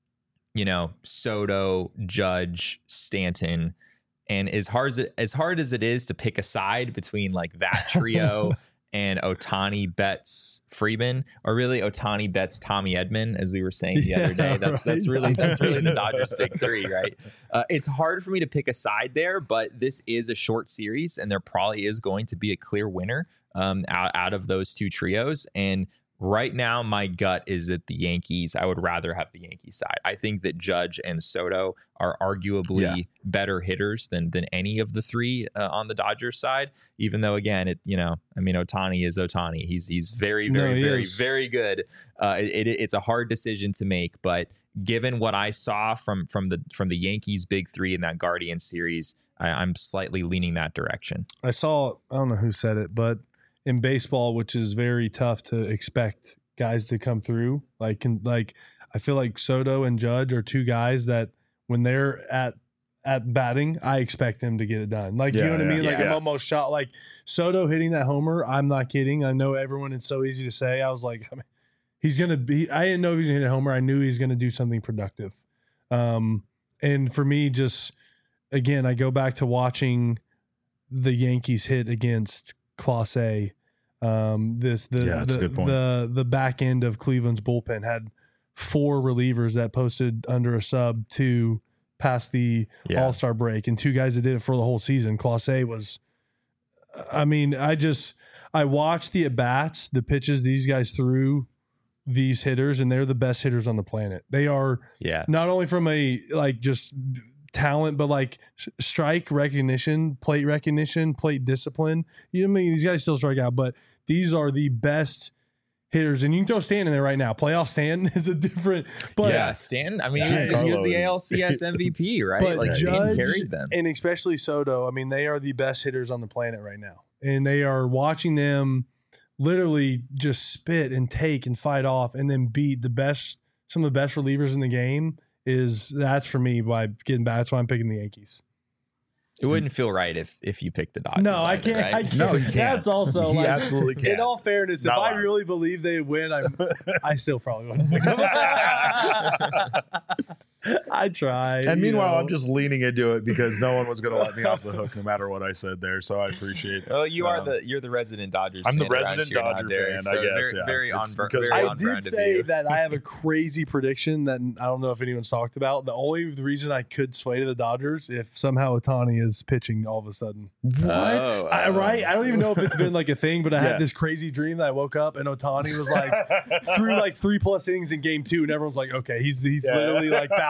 Soto, Judge, Stanton, and as hard as it is to pick a side between like that trio and Ohtani, Betts, Freeman, or really Ohtani, Betts, Tommy Edman, as we were saying the other day. That's really the Dodgers' big 3, right? It's hard for me to pick a side there, but this is a short series, and there probably is going to be a clear winner out of those 2 trios. And right now, my gut is that the Yankees, I would rather have the Yankees side. I think that Judge and Soto are arguably better hitters than any of the 3 on the Dodgers side, even though, again, Ohtani is Ohtani. He's very, very, very, very good. It's a hard decision to make, but given what I saw from the Yankees' big 3 in that Guardian series, I'm slightly leaning that direction. I don't know who said it, but in baseball, which is very tough to expect guys to come through, I feel like Soto and Judge are 2 guys that when they're at batting, I expect them to get it done. You know what I mean? I'm almost shot. Like Soto hitting that homer, I'm not kidding. I know everyone, it's so easy to say. I was like, he's going to be, I didn't know he was going to hit a homer. I knew he was going to do something productive. And for me, just, again, I go back to watching the Yankees hit against Clase. That's a good point. The back end of Cleveland's bullpen had 4 relievers that posted under a sub to pass the All-Star break, and 2 guys that did it for the whole season. Clase was, I watched the at-bats, the pitches these guys threw these hitters, and they're the best hitters on the planet. They are not only from a just talent, but strike recognition, plate discipline. These guys still strike out, but these are the best hitters. And you can throw Stan in there right now. Playoff Stan is a different, but Stan. He was the ALCS MVP, right? But Judge, Stan carried them, and especially Soto. They are the best hitters on the planet right now, and they are watching them literally just spit and take and fight off, and then beat some of the best relievers in the game. That's for me why getting back. That's why I'm picking the Yankees. It wouldn't feel right if you picked the Dodgers. No, I either, can't. Right? I can't. No, you can't. That's also he absolutely can. In all fairness, if I really believe they win, I still probably wouldn't pick them. I tried. And meanwhile, I'm just leaning into it because no one was going to let me off the hook no matter what I said there. So I appreciate it. Well, you're the resident Dodgers I'm fan. the resident Dodger fan, I guess. Very on brand. I did say that I have a crazy prediction that I don't know if anyone's talked about. The only reason I could sway to the Dodgers if somehow Ohtani is pitching all of a sudden. What? Right? I don't even know if it's been a thing, but I had this crazy dream that I woke up and Ohtani was threw 3+ innings in game 2, and everyone's like, okay, he's literally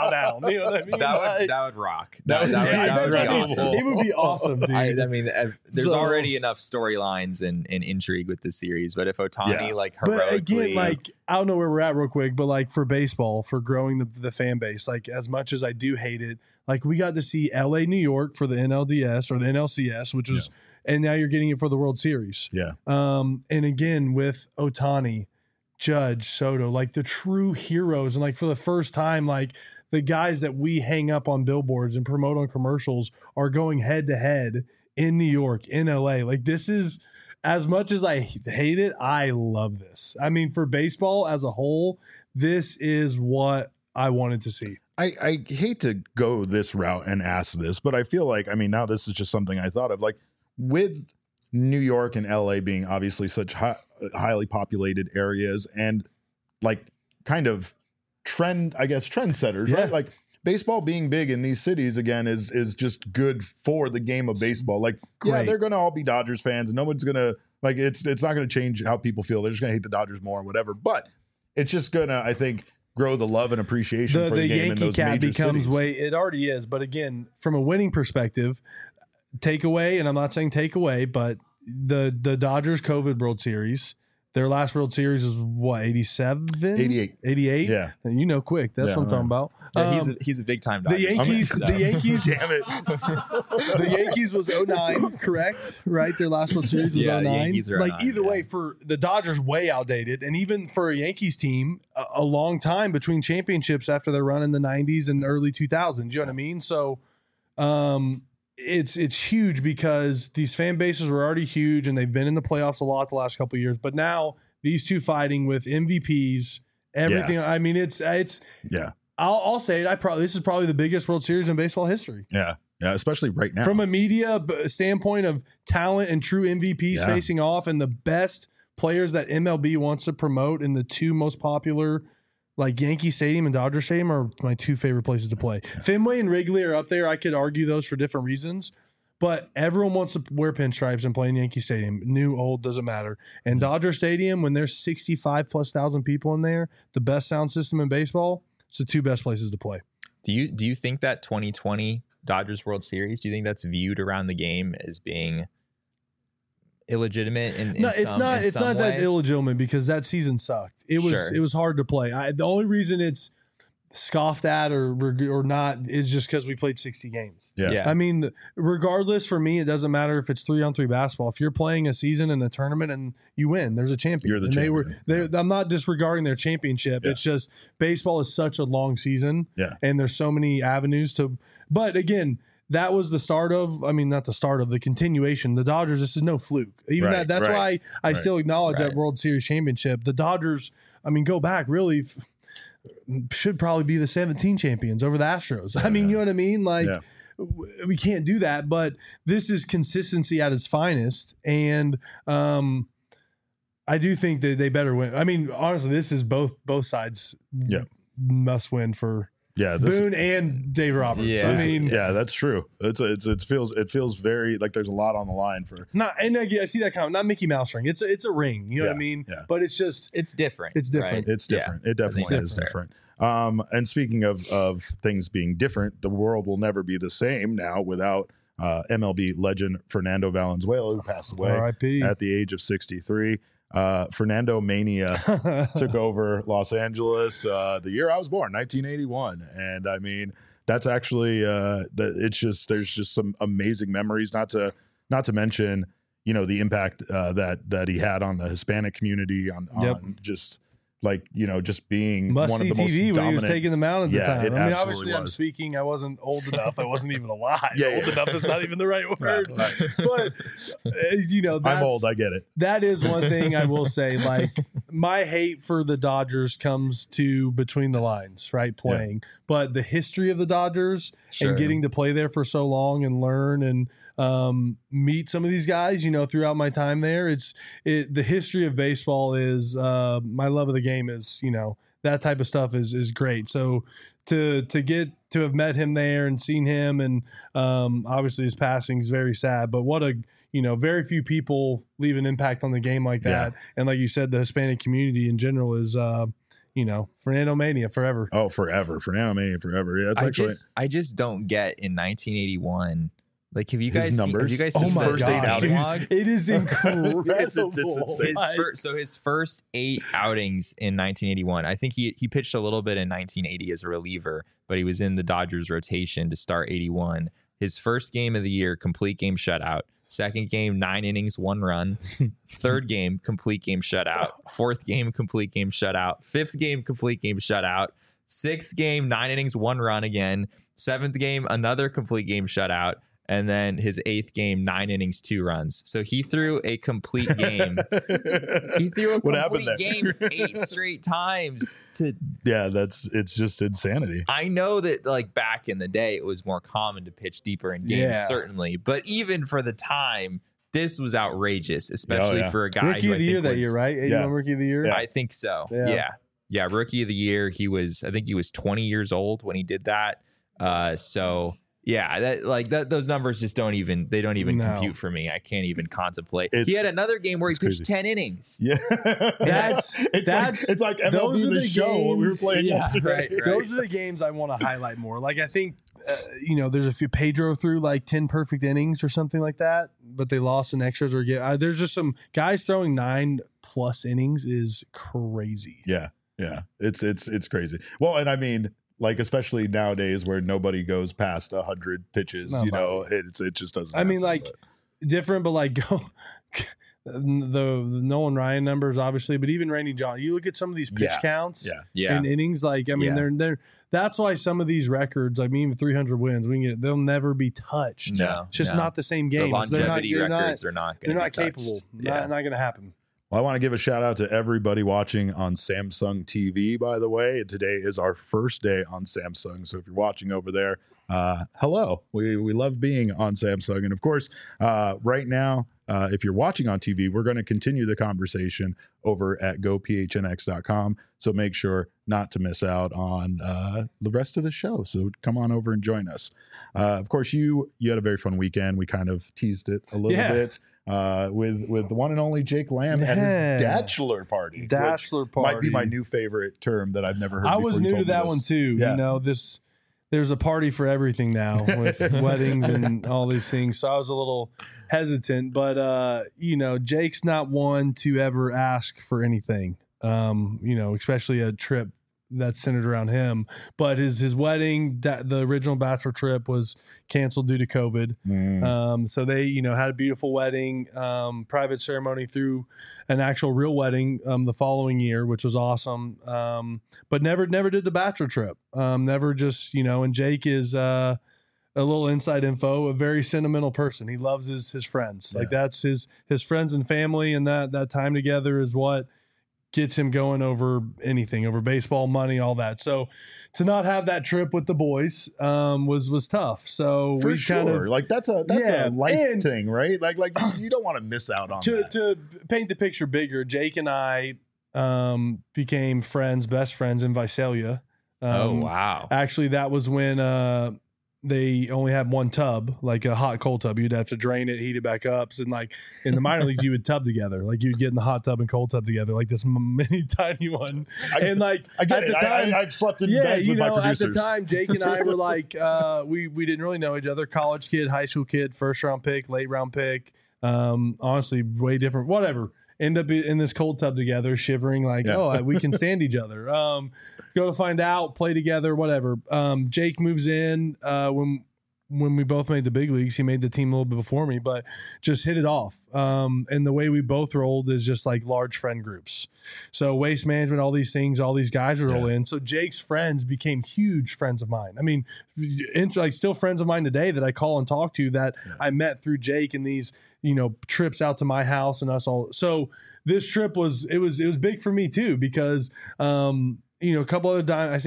bow down. You know what I mean? That would rock. That would be awesome. It would be awesome, dude. I mean, there's already enough storylines and intrigue with this series, but if Ohtani like heroically, but again, like I don't know where we're at real quick, but like for baseball, for growing the fan base, like as much as I do hate it, like we got to see LA, New York for the NLDS or the NLCS, which was, and now you're getting it for the World Series. Yeah. And again with Ohtani, Judge, Soto, like the true heroes, and like for the first time, like the guys that we hang up on billboards and promote on commercials are going head to head in New York, in LA. Like this is, as much as I hate it, I love this. I mean, for baseball as a whole, this is what I wanted to see. I hate to go this route and ask this, but I feel like, I mean, now this is just something I thought of, like with New York and LA being obviously such highly populated areas and like kind of trendsetters, right? Like baseball being big in these cities again is just good for the game of baseball. Like, yeah, they're going to all be Dodgers fans and no one's going to like, it's not going to change how people feel. They're just going to hate the Dodgers more or whatever, but it's just going to, I think, grow the love and appreciation for the game in those major cities. It already is. But again, from a winning perspective, takeaway, and I'm not saying takeaway, but the Dodgers COVID World Series, their last World Series is what, 87? 88? Yeah. And you know quick. That's what I'm talking about. Yeah, he's a big time Dodgers. The Yankees, damn it. The Yankees was 09, correct? Right? Their last World Series was 09. Yankees are like 09, either way, for the Dodgers, way outdated. And even for a Yankees team, a long time between championships after their run in the 90s and early 2000s. You know what I mean? So it's huge because these fan bases were already huge and they've been in the playoffs a lot the last couple of years. But now these two fighting with MVPs, everything. I mean, it's I'll say it. This is probably the biggest World Series in baseball history. Yeah, especially right now. From a media standpoint of talent and true MVPs facing off, and the best players that MLB wants to promote in the two most popular, like Yankee Stadium and Dodger Stadium, are my two favorite places to play. Fenway and Wrigley are up there. I could argue those for different reasons, but everyone wants to wear pinstripes and play in Yankee Stadium. New, old, doesn't matter. And Dodger Stadium, when there's 65,000+ people in there, the best sound system in baseball, it's the two best places to play. Do you think that 2020 Dodgers World Series, do you think that's viewed around the game as being illegitimate in it's not that illegitimate because that season sucked. It was hard to play. The only reason it's scoffed at or not is just because we played 60 games. Yeah. I mean, regardless, for me, it doesn't matter if it's 3-on-3 basketball. If you're playing a season in a tournament and you win, there's a champion. You're the champion. I'm not disregarding their championship. It's just baseball is such a long season. Yeah. And there's so many avenues to, but again, that was the start of, not the start of, the continuation. The Dodgers, this is no fluke. That's why I still acknowledge that World Series championship. The Dodgers, go back, really should probably be the 17 champions over the Astros. You know what I mean? Like, we can't do that, but this is consistency at its finest. And I do think that they better win. Honestly, this is both sides must win for Boone and Dave Roberts. That's true. It feels very like there's a lot on the line for I see that comment. Not Mickey Mouse ring. It's a ring. You know what I mean? Yeah. But it's just it's different. It's different. Right? It's different. It definitely is different. And speaking of things being different, the world will never be the same now without MLB legend Fernando Valenzuela, who passed away R.I.P. at the age of 63. Fernando Mania took over Los Angeles the year I was born, 1981, and that's actually there's just some amazing memories. Not to mention the impact that he had on the Hispanic community on just just being one of the most dominant. When he was taking the mound at the time. Obviously I'm speaking. I wasn't old enough. I wasn't even alive. Old enough is not even the right word. Right. But I'm old. I get it. That is one thing I will say. Like, my hate for the Dodgers comes to between the lines, right? Playing, but the history of the Dodgers and getting to play there for so long and learn and meet some of these guys. Throughout my time there, the history of baseball is my love of the game is that type of stuff is great. So to have met him there and seen him, and obviously his passing is very sad, but what a very few people leave an impact on the game like that. And like you said, the Hispanic community in general is Fernando Mania forever. Oh, forever. Fernando Mania forever. Yeah, it's I just don't get in 1981. Like, have you guys numbers? Have you guys Oh seen my the first 8 gosh, outings? dude. It is incredible. It's insane. His first 8 outings in 1981. I think he pitched a little bit in 1980 as a reliever, but he was in the Dodgers rotation to start 81. His first game of the year, complete game shutout. Second game, 9 innings, 1 run. Third game, complete game shutout. Fourth game, complete game shutout. Fifth game, complete game shutout. Sixth game, 9 innings, 1 run again. Seventh game, another complete game shutout. And then his 8th game, 9 innings, 2 runs. So he threw a complete game. He threw a What happened complete there? game 8 straight times. Yeah, it's just insanity. I know that like back in the day, it was more common to pitch deeper in games, Yeah. certainly. But even for the time, this was outrageous, especially yeah. for a guy Rookie who of the year that year, right? 81 Yeah. Rookie of the year. Yeah. I think so. Yeah. Yeah. Rookie of the year. I think he was 20 years old when he did that. So yeah, those numbers just don't even compute for me. I can't even contemplate. He had another game where he pitched 10 innings. Yeah, That's it's like those MLB are The the Show we were games- playing yeah, yesterday. right. Those are the games I want to highlight more. Like, I think, there's a few. Pedro threw like 10 perfect innings or something like that, but they lost in extras or there's just some guys throwing 9+ innings is crazy. Yeah, it's crazy. Well, and I mean, like, especially nowadays where nobody goes past 100 pitches, Nobody. it just doesn't. I mean, happen, like, different, but like the Nolan Ryan numbers, obviously, but even Randy John, you look at some of these pitch counts Yeah. and innings, like, I mean, they're that's why some of these records, I mean, even 300 wins, they'll never be touched. No, It's just no. not the same The game. longevity records are not going to They're be not capable. touched. Yeah. Not going to happen. Well, I want to give a shout out to everybody watching on Samsung TV, by the way. Today is our first day on Samsung. So if you're watching over there, hello. We love being on Samsung. And of course, right now, if you're watching on TV, we're going to continue the conversation over at gophnx.com. So make sure not to miss out on the rest of the show. So come on over and join us. Of course, you had a very fun weekend. We kind of teased it a little bit. With the one and only Jake Lamb at his bachelor party. Bachelor party might be my new favorite term that I've never heard. I before was you new told to me that this. one too. Yeah. There's a party for everything now with weddings and all these things. So I was a little hesitant, but Jake's not one to ever ask for anything. Especially a trip that's centered around him. But his wedding, the original bachelor trip, was canceled due to COVID. So they, had a beautiful wedding, private ceremony through an actual real wedding the following year, which was awesome. But never did the bachelor trip. Never just, and Jake is a little inside info, a very sentimental person. He loves his friends. Like, that's his friends and family, and that time together is what gets him going over anything, over baseball, money, all that. So to not have that trip with the boys was tough. So For we sure. kind of, Like that's a life and thing, right? Like you don't want to miss out on that. to paint the picture bigger, Jake and I became best friends in Visalia. Oh, wow. Actually, that was when they only had one tub, like a hot cold tub. You'd have to drain it, heat it back up. And like in the minor leagues, you would tub together. Like you'd get in the hot tub and cold tub together, like this mini tiny one. And like I get at it. the time, I've slept in beds with my at producers. the time, Jake and I were like, we didn't really know each other. College kid, high school kid, first round pick, late round pick. Honestly, way different. Whatever. End up in this cold tub together, shivering like, we can stand each other. Go to find out, play together, whatever. Jake moves in when we both made the big leagues. He made the team a little bit before me, but just hit it off. And the way we both rolled is just like large friend groups. So waste management, all these things, all these guys would roll in. So Jake's friends became huge friends of mine. I mean, like still friends of mine today that I call and talk to that I met through Jake and these, trips out to my house and us all. So this trip was big for me too, because, a couple other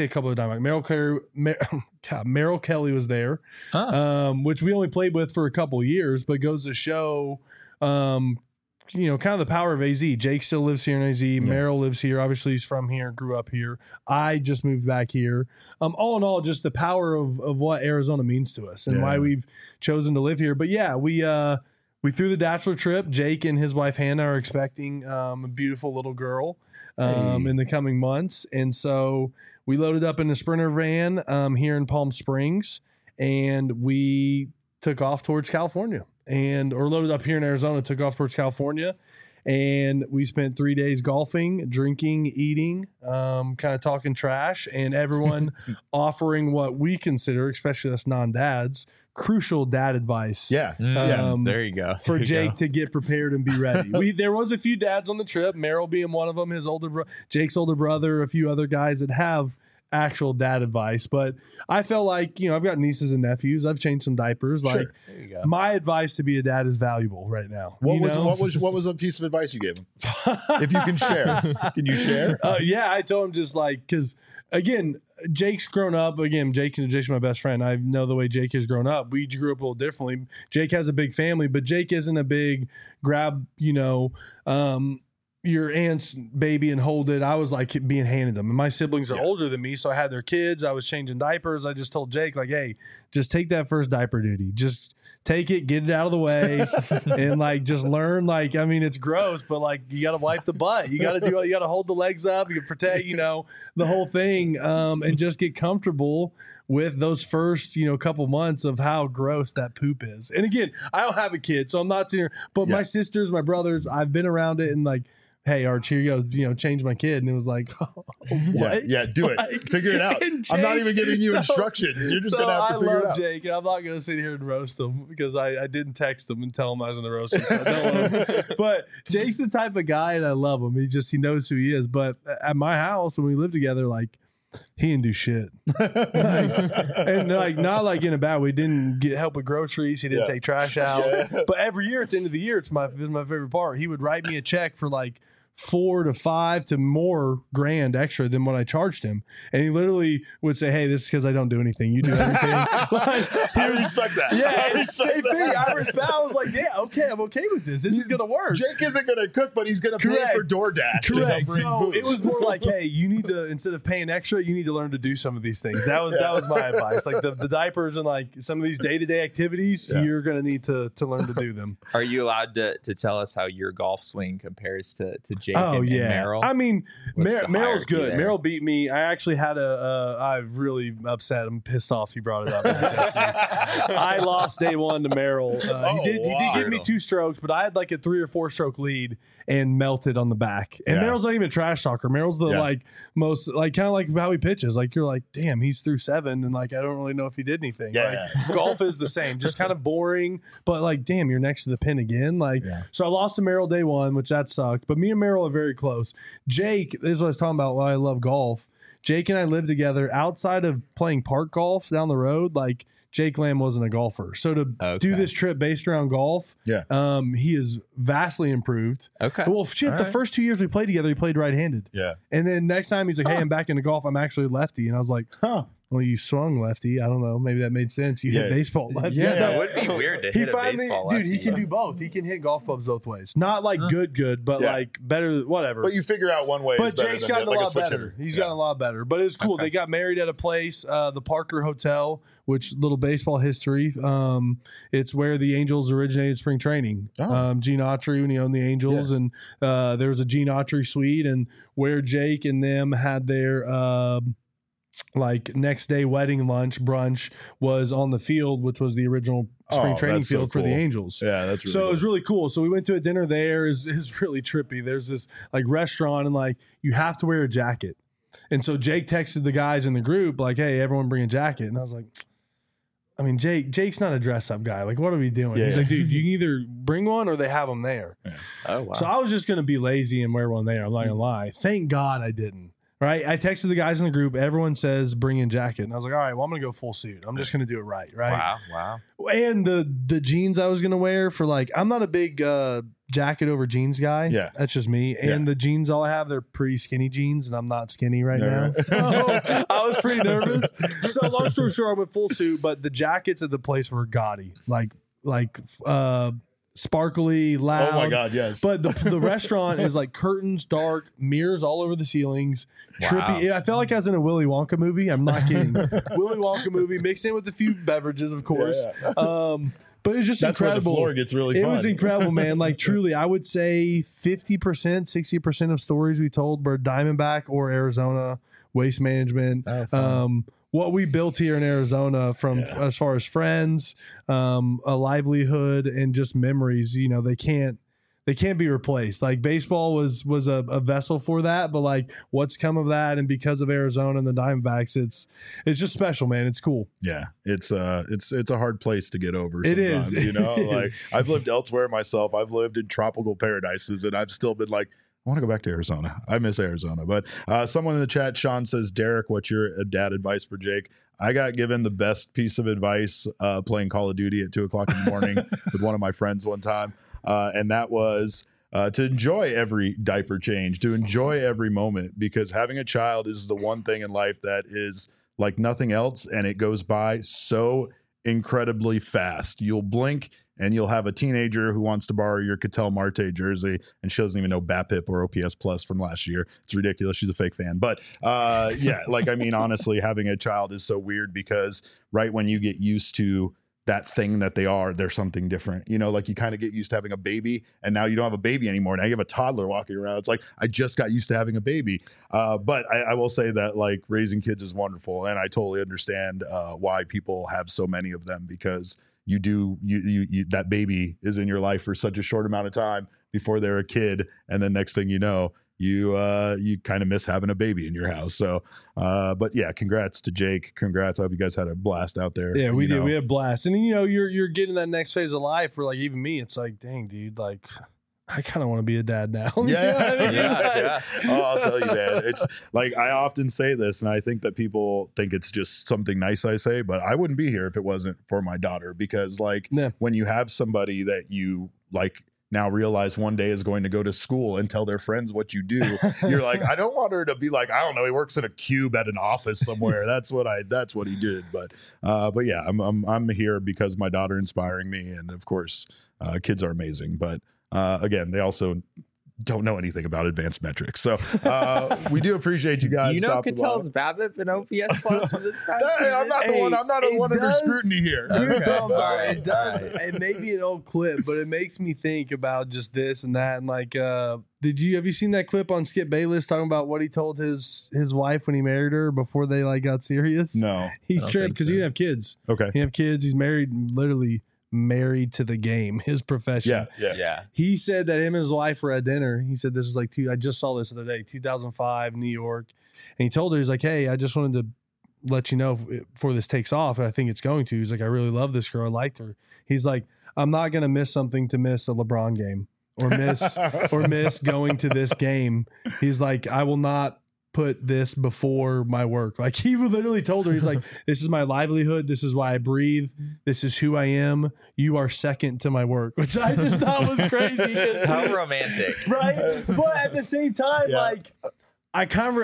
Merrill Kelly was there, which we only played with for a couple years, but goes to show, kind of the power of AZ. Jake still lives here in AZ. Merrill lives here. Obviously, he's from here, grew up here. I just moved back here. All in all, just the power of what Arizona means to us and why we've chosen to live here. But yeah, we we threw the bachelor trip. Jake and his wife Hannah are expecting a beautiful little girl in the coming months, and so we loaded up in a Sprinter van here in Palm Springs, and we took off towards California, or loaded up here in Arizona, took off towards California. And we spent 3 days golfing, drinking, eating, kind of talking trash, and everyone offering what we consider, especially us non-dads, crucial dad advice. Yeah. There you go. For Jake to get prepared and be ready. There was a few dads on the trip, Merrill being one of them, Jake's older brother, a few other guys that have actual dad advice. But I felt like, I've got nieces and nephews. I've changed some diapers. Sure. Like, There you go. my advice to be a dad is valuable right now. What was a piece of advice you gave him? If you can share, can you share? Yeah, I told him just like, because again, Jake's grown up. Again, Jake's my best friend. I know the way Jake has grown up. We grew up a little differently. Jake has a big family, but Jake isn't a big grab, your aunt's baby and hold it. I was like being handed them. And my siblings are older than me, so I had their kids. I was changing diapers. I just told Jake, like, hey, just take that first diaper duty. Just take it, get it out of the way, and like just learn. Like, I mean, it's gross, but like you got to wipe the butt. You got to hold the legs up. You can protect, the whole thing, and just get comfortable with those first, couple months of how gross that poop is. And again, I don't have a kid, so I'm not sitting here, but my sisters, my brothers, I've been around it and like, hey, Arch, here you go, change my kid. And it was like, what? Yeah, do it. Figure it out. Jake, I'm not even giving you instructions. You're just going to have to figure it out. I love Jake, and I'm not going to sit here and roast him because I didn't text him and tell him I was going to roast him. So I don't want him. But Jake's the type of guy, and I love him. He knows who he is. But at my house, when we lived together, like, he didn't do shit. Not like in a bad way. He didn't help with groceries. He didn't take trash out. Yeah. But every year at the end of the year, it's my favorite part. He would write me a check for like $4 to $5 to more grand extra than what I charged him. And he literally would say, hey, this is because I don't do anything. You do everything. I respect that. Yeah, I respect that. I was like, yeah, okay, I'm okay with this. This is going to work. Jake isn't going to cook, but he's going to pay for DoorDash. Correct. So it was more like, hey, you need to, instead of paying extra, you need to learn to do some of these things. That was my advice. Like the diapers and like some of these day-to-day activities, you're going to need to learn to do them. Are you allowed to tell us how your golf swing compares to Jake and Merrill? I mean, Merrill's good. there? Merrill beat me. I actually had I'm really upset. I'm pissed off he brought it up. I lost day one to Merrill. He did give me 2 strokes, but I had like a 3 or 4 stroke lead and melted on the back. And Merrill's not even a trash talker. Merrill's the most kind of like how he pitches. Like you're like, damn, he's through 7, and like I don't really know if he did anything. Yeah. Like, golf is the same, just kind of boring. But like, damn, you're next to the pin again. So I lost to Merrill day one, which that sucked. But me and Merrill are very close. Jake, this is what I was talking about why I love golf. Jake and I lived together outside of playing park golf down the road. Like Jake Lamb wasn't a golfer. So to do this trip based around golf, he is vastly improved. Okay. Well, shit, the first 2 years we played together, he played right-handed. Yeah. And then next time he's like, hey, I'm back into golf. I'm actually lefty. And I was like, well, you swung lefty. I don't know. Maybe that made sense. You hit baseball lefty. Yeah, it would be weird to hit a baseball lefty. Dude, he can do both. He can hit golf clubs both ways. Not like good, but like better, whatever. But you figure out one way. But Jake's gotten a lot better. He's gotten a lot better. But it's cool. Okay. They got married at a place, the Parker Hotel, which little baseball history. It's where the Angels originated spring training. Gene Autry, when he owned the Angels, and there was a Gene Autry suite, and where Jake and them had their like next day wedding lunch brunch was on the field, which was the original spring training field for the Angels. Yeah, that's really so cool. It was really cool. So we went to a dinner there. Is really trippy. There's this like restaurant, and like you have to wear a jacket. And so Jake texted the guys in the group like, "Hey, everyone bring a jacket." And I was like, I mean, Jake's not a dress up guy. Like, what are we doing? He's like, dude, you can either bring one or they have them there. Yeah. Oh wow. So I was just gonna be lazy and wear one there. I'm not gonna lie. Thank God I didn't. Right, I texted the guys in the group. Everyone says bring in jacket, and I was like, all right, well, I'm gonna go full suit. I'm just gonna do it right. Wow. And the jeans I was gonna wear for like, I'm not a big jacket over jeans guy. Yeah, that's just me. And the jeans all I have, they're pretty skinny jeans, and I'm not skinny right now. So I was pretty nervous. So long story short, I went full suit, but the jackets at the place were gaudy, like sparkly, loud. Oh my God, yes. But the restaurant is like curtains, dark, mirrors all over the ceilings. Wow. Trippy. I felt like I was in a Willy Wonka movie. I'm not kidding. Willy Wonka movie mixed in with a few beverages, of course. Yeah. But it's just That's incredible. where the floor gets really fun. It was incredible, man. Like truly, I would say 50%, 60% of stories we told were Diamondback or Arizona Waste Management. What we built here in Arizona from as far as friends, a livelihood, and just memories, you know, they can't be replaced. Like baseball was a vessel for that, but like what's come of that, and because of Arizona and the Diamondbacks, it's just special, man. It's cool. Yeah, it's a hard place to get over. It is. You know, It like is. I've lived elsewhere myself. I've lived in tropical paradises, and I've still been like, I want to go back to Arizona. I miss Arizona. But someone in the chat, Sean says, Derek, what's your dad advice for Jake? I got given the best piece of advice playing Call of Duty at 2:00 in the morning with one of my friends one time. And that was to enjoy every diaper change, to enjoy every moment, because having a child is the one thing in life that is like nothing else. And it goes by so incredibly fast. You'll blink and you'll have a teenager who wants to borrow your Ketel Marte jersey, and she doesn't even know BAPIP or OPS Plus from last year. It's ridiculous. She's a fake fan. But yeah, like, I mean, honestly, having a child is so weird because right when you get used to that thing that they are, they're something different. You know, like you kind of get used to having a baby, and now you don't have a baby anymore. Now you have a toddler walking around. It's like, I just got used to having a baby. But I will say that like raising kids is wonderful. And I totally understand why people have so many of them, because you that baby is in your life for such a short amount of time before they're a kid. And then next thing you know, you kind of miss having a baby in your house. So, but yeah, congrats to Jake. Congrats. I hope you guys had a blast out there. Yeah, we did. We had a blast. And you know, you're getting that next phase of life where like even me, it's like, dang, dude, like I kind of want to be a dad now. You know what I mean? Yeah. Oh, I'll tell you, man. It's like, I often say this, and I think that people think it's just something nice I say, but I wouldn't be here if it wasn't for my daughter, because like when you have somebody that you like now realize one day is going to go to school and tell their friends what you do, you're like, I don't want her to be like, I don't know, he works in a cube at an office somewhere. That's what he did. But yeah, I'm here because my daughter inspiring me, and of course, kids are amazing. But again, they also don't know anything about advanced metrics. So we do appreciate you guys. Do you know Ketel's BABIP and OPS Plus from this past Hey, I'm not the one. I'm not one under scrutiny here. You're talking about All right. it does. It may be an old clip, but it makes me think about just this and that. And like, have you seen that clip on Skip Bayless talking about what he told his wife when he married her before they like got serious? No, He I don't tripped think because so. he didn't have kids. okay, He didn't have kids. He's married, literally married to the game, his profession. yeah. He said that him and his wife were at dinner. He said this was like I just saw this the other day, 2005, New York. And he told her, he's like, hey, I just wanted to let you know before this takes off, and I think it's going to. He's like, I really love this girl. I liked her. He's like, I'm not going to miss something to miss a LeBron game or miss going to this game. He's like, I will not put this before my work. Like he literally told her, he's like, this is my livelihood. This is why I breathe. This is who I am. You are second to my work, which I just thought was crazy. How romantic. Right? But at the same time, Yeah. like I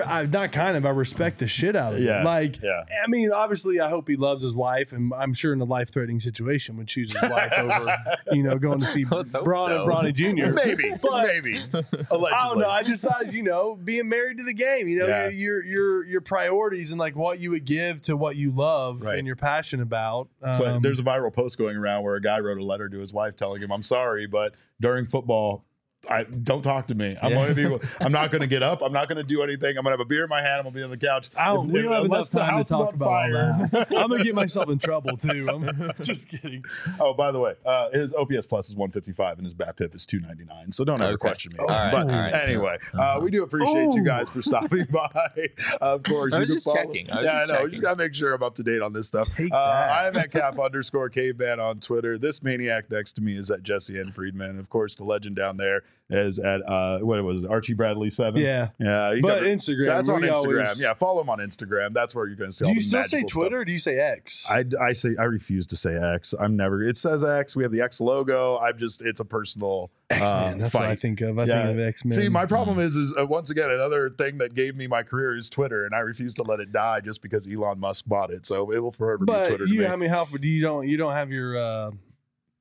respect the shit out of it. Yeah. Like, Yeah. I mean, obviously I hope he loves his wife, and I'm sure in a life-threatening situation would choose his wife over, going to see Let's hope Braun and so. Bronny Jr. Maybe, But- maybe. Allegedly. I don't know. I just thought, being married to the game, Yeah. your priorities and like what you would give to what you love Right. and you're passionate about. So there's a viral post going around where a guy wrote a letter to his wife telling him, I'm sorry, but during football, don't talk to me. I'm not going to get up. I'm not going to do anything. I'm going to have a beer in my hand. I'm going to be on the couch. We don't have enough Unless the time to house is talk on about all fire. that. I'm gonna get myself in trouble too. I'm just kidding. Oh, by the way, his OPS Plus is 155 and his BAPIP is 299. So don't ever Okay. question me. All right, But all right. anyway, we do appreciate you guys for stopping by. Of course, I you was can just follow- checking. I was Yeah, just I know. checking. You got to make sure I'm up to date on this stuff. Take that. I'm at Cap_Caveman on Twitter. This maniac next to me is at Jesse N. Friedman. Of course, the legend down there is at what was it, Archie Bradley 7. Yeah. Yeah. But Instagram, That's on we Instagram. always- Yeah, follow him on Instagram. That's where you're going to see all Do you the still say magical stuff. Twitter or do you say X? I refuse to say X. It says X. We have the X logo. It's a personal X-Men. That's fight. what I think of. I think of X-Men. See, my problem is once again, another thing that gave me my career is Twitter, and I refuse to let it die just because Elon Musk bought it. So it will forever be But Twitter to me. you don't have your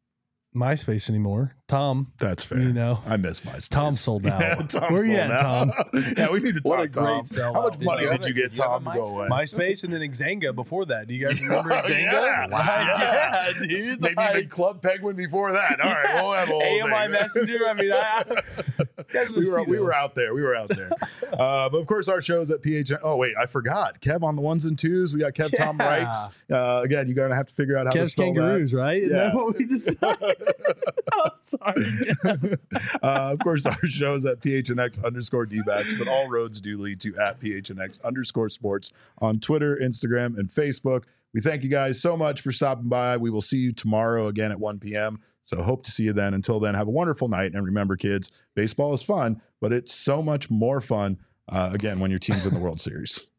MySpace anymore. Tom, That's fair. you know, I miss MySpace. Tom sold out. Yeah, Tom Where you sold at, out. Tom? Yeah, we need to talk. What a Tom. great sellout. How much Did money you did you get Tom to go away? MySpace and then Xanga before that. Do you guys remember Oh, Xanga? yeah. Like, Yeah. yeah, dude. Maybe like, even Club Penguin before that. All right, we'll have a whole AMI thing. Messenger. I mean, we were out there. We were out there. But of course, our shows at PHN. Oh wait, I forgot. Kev on the ones and twos. We got Kev Tom Wrights. Again, you're gonna have to figure out how to Kev's spell Kangaroos, right? Isn't Yeah. that what we decided? Oh, sorry. that. Of course, our shows at PHNX_DBacks, but all roads do lead to at PHNX_sports on Twitter, Instagram, and Facebook. We thank you guys so much for stopping by. We will see you tomorrow again at 1 p.m. So hope to see you then. Until then, have a wonderful night. And remember, kids, baseball is fun, but it's so much more fun, again, when your team's in the World Series.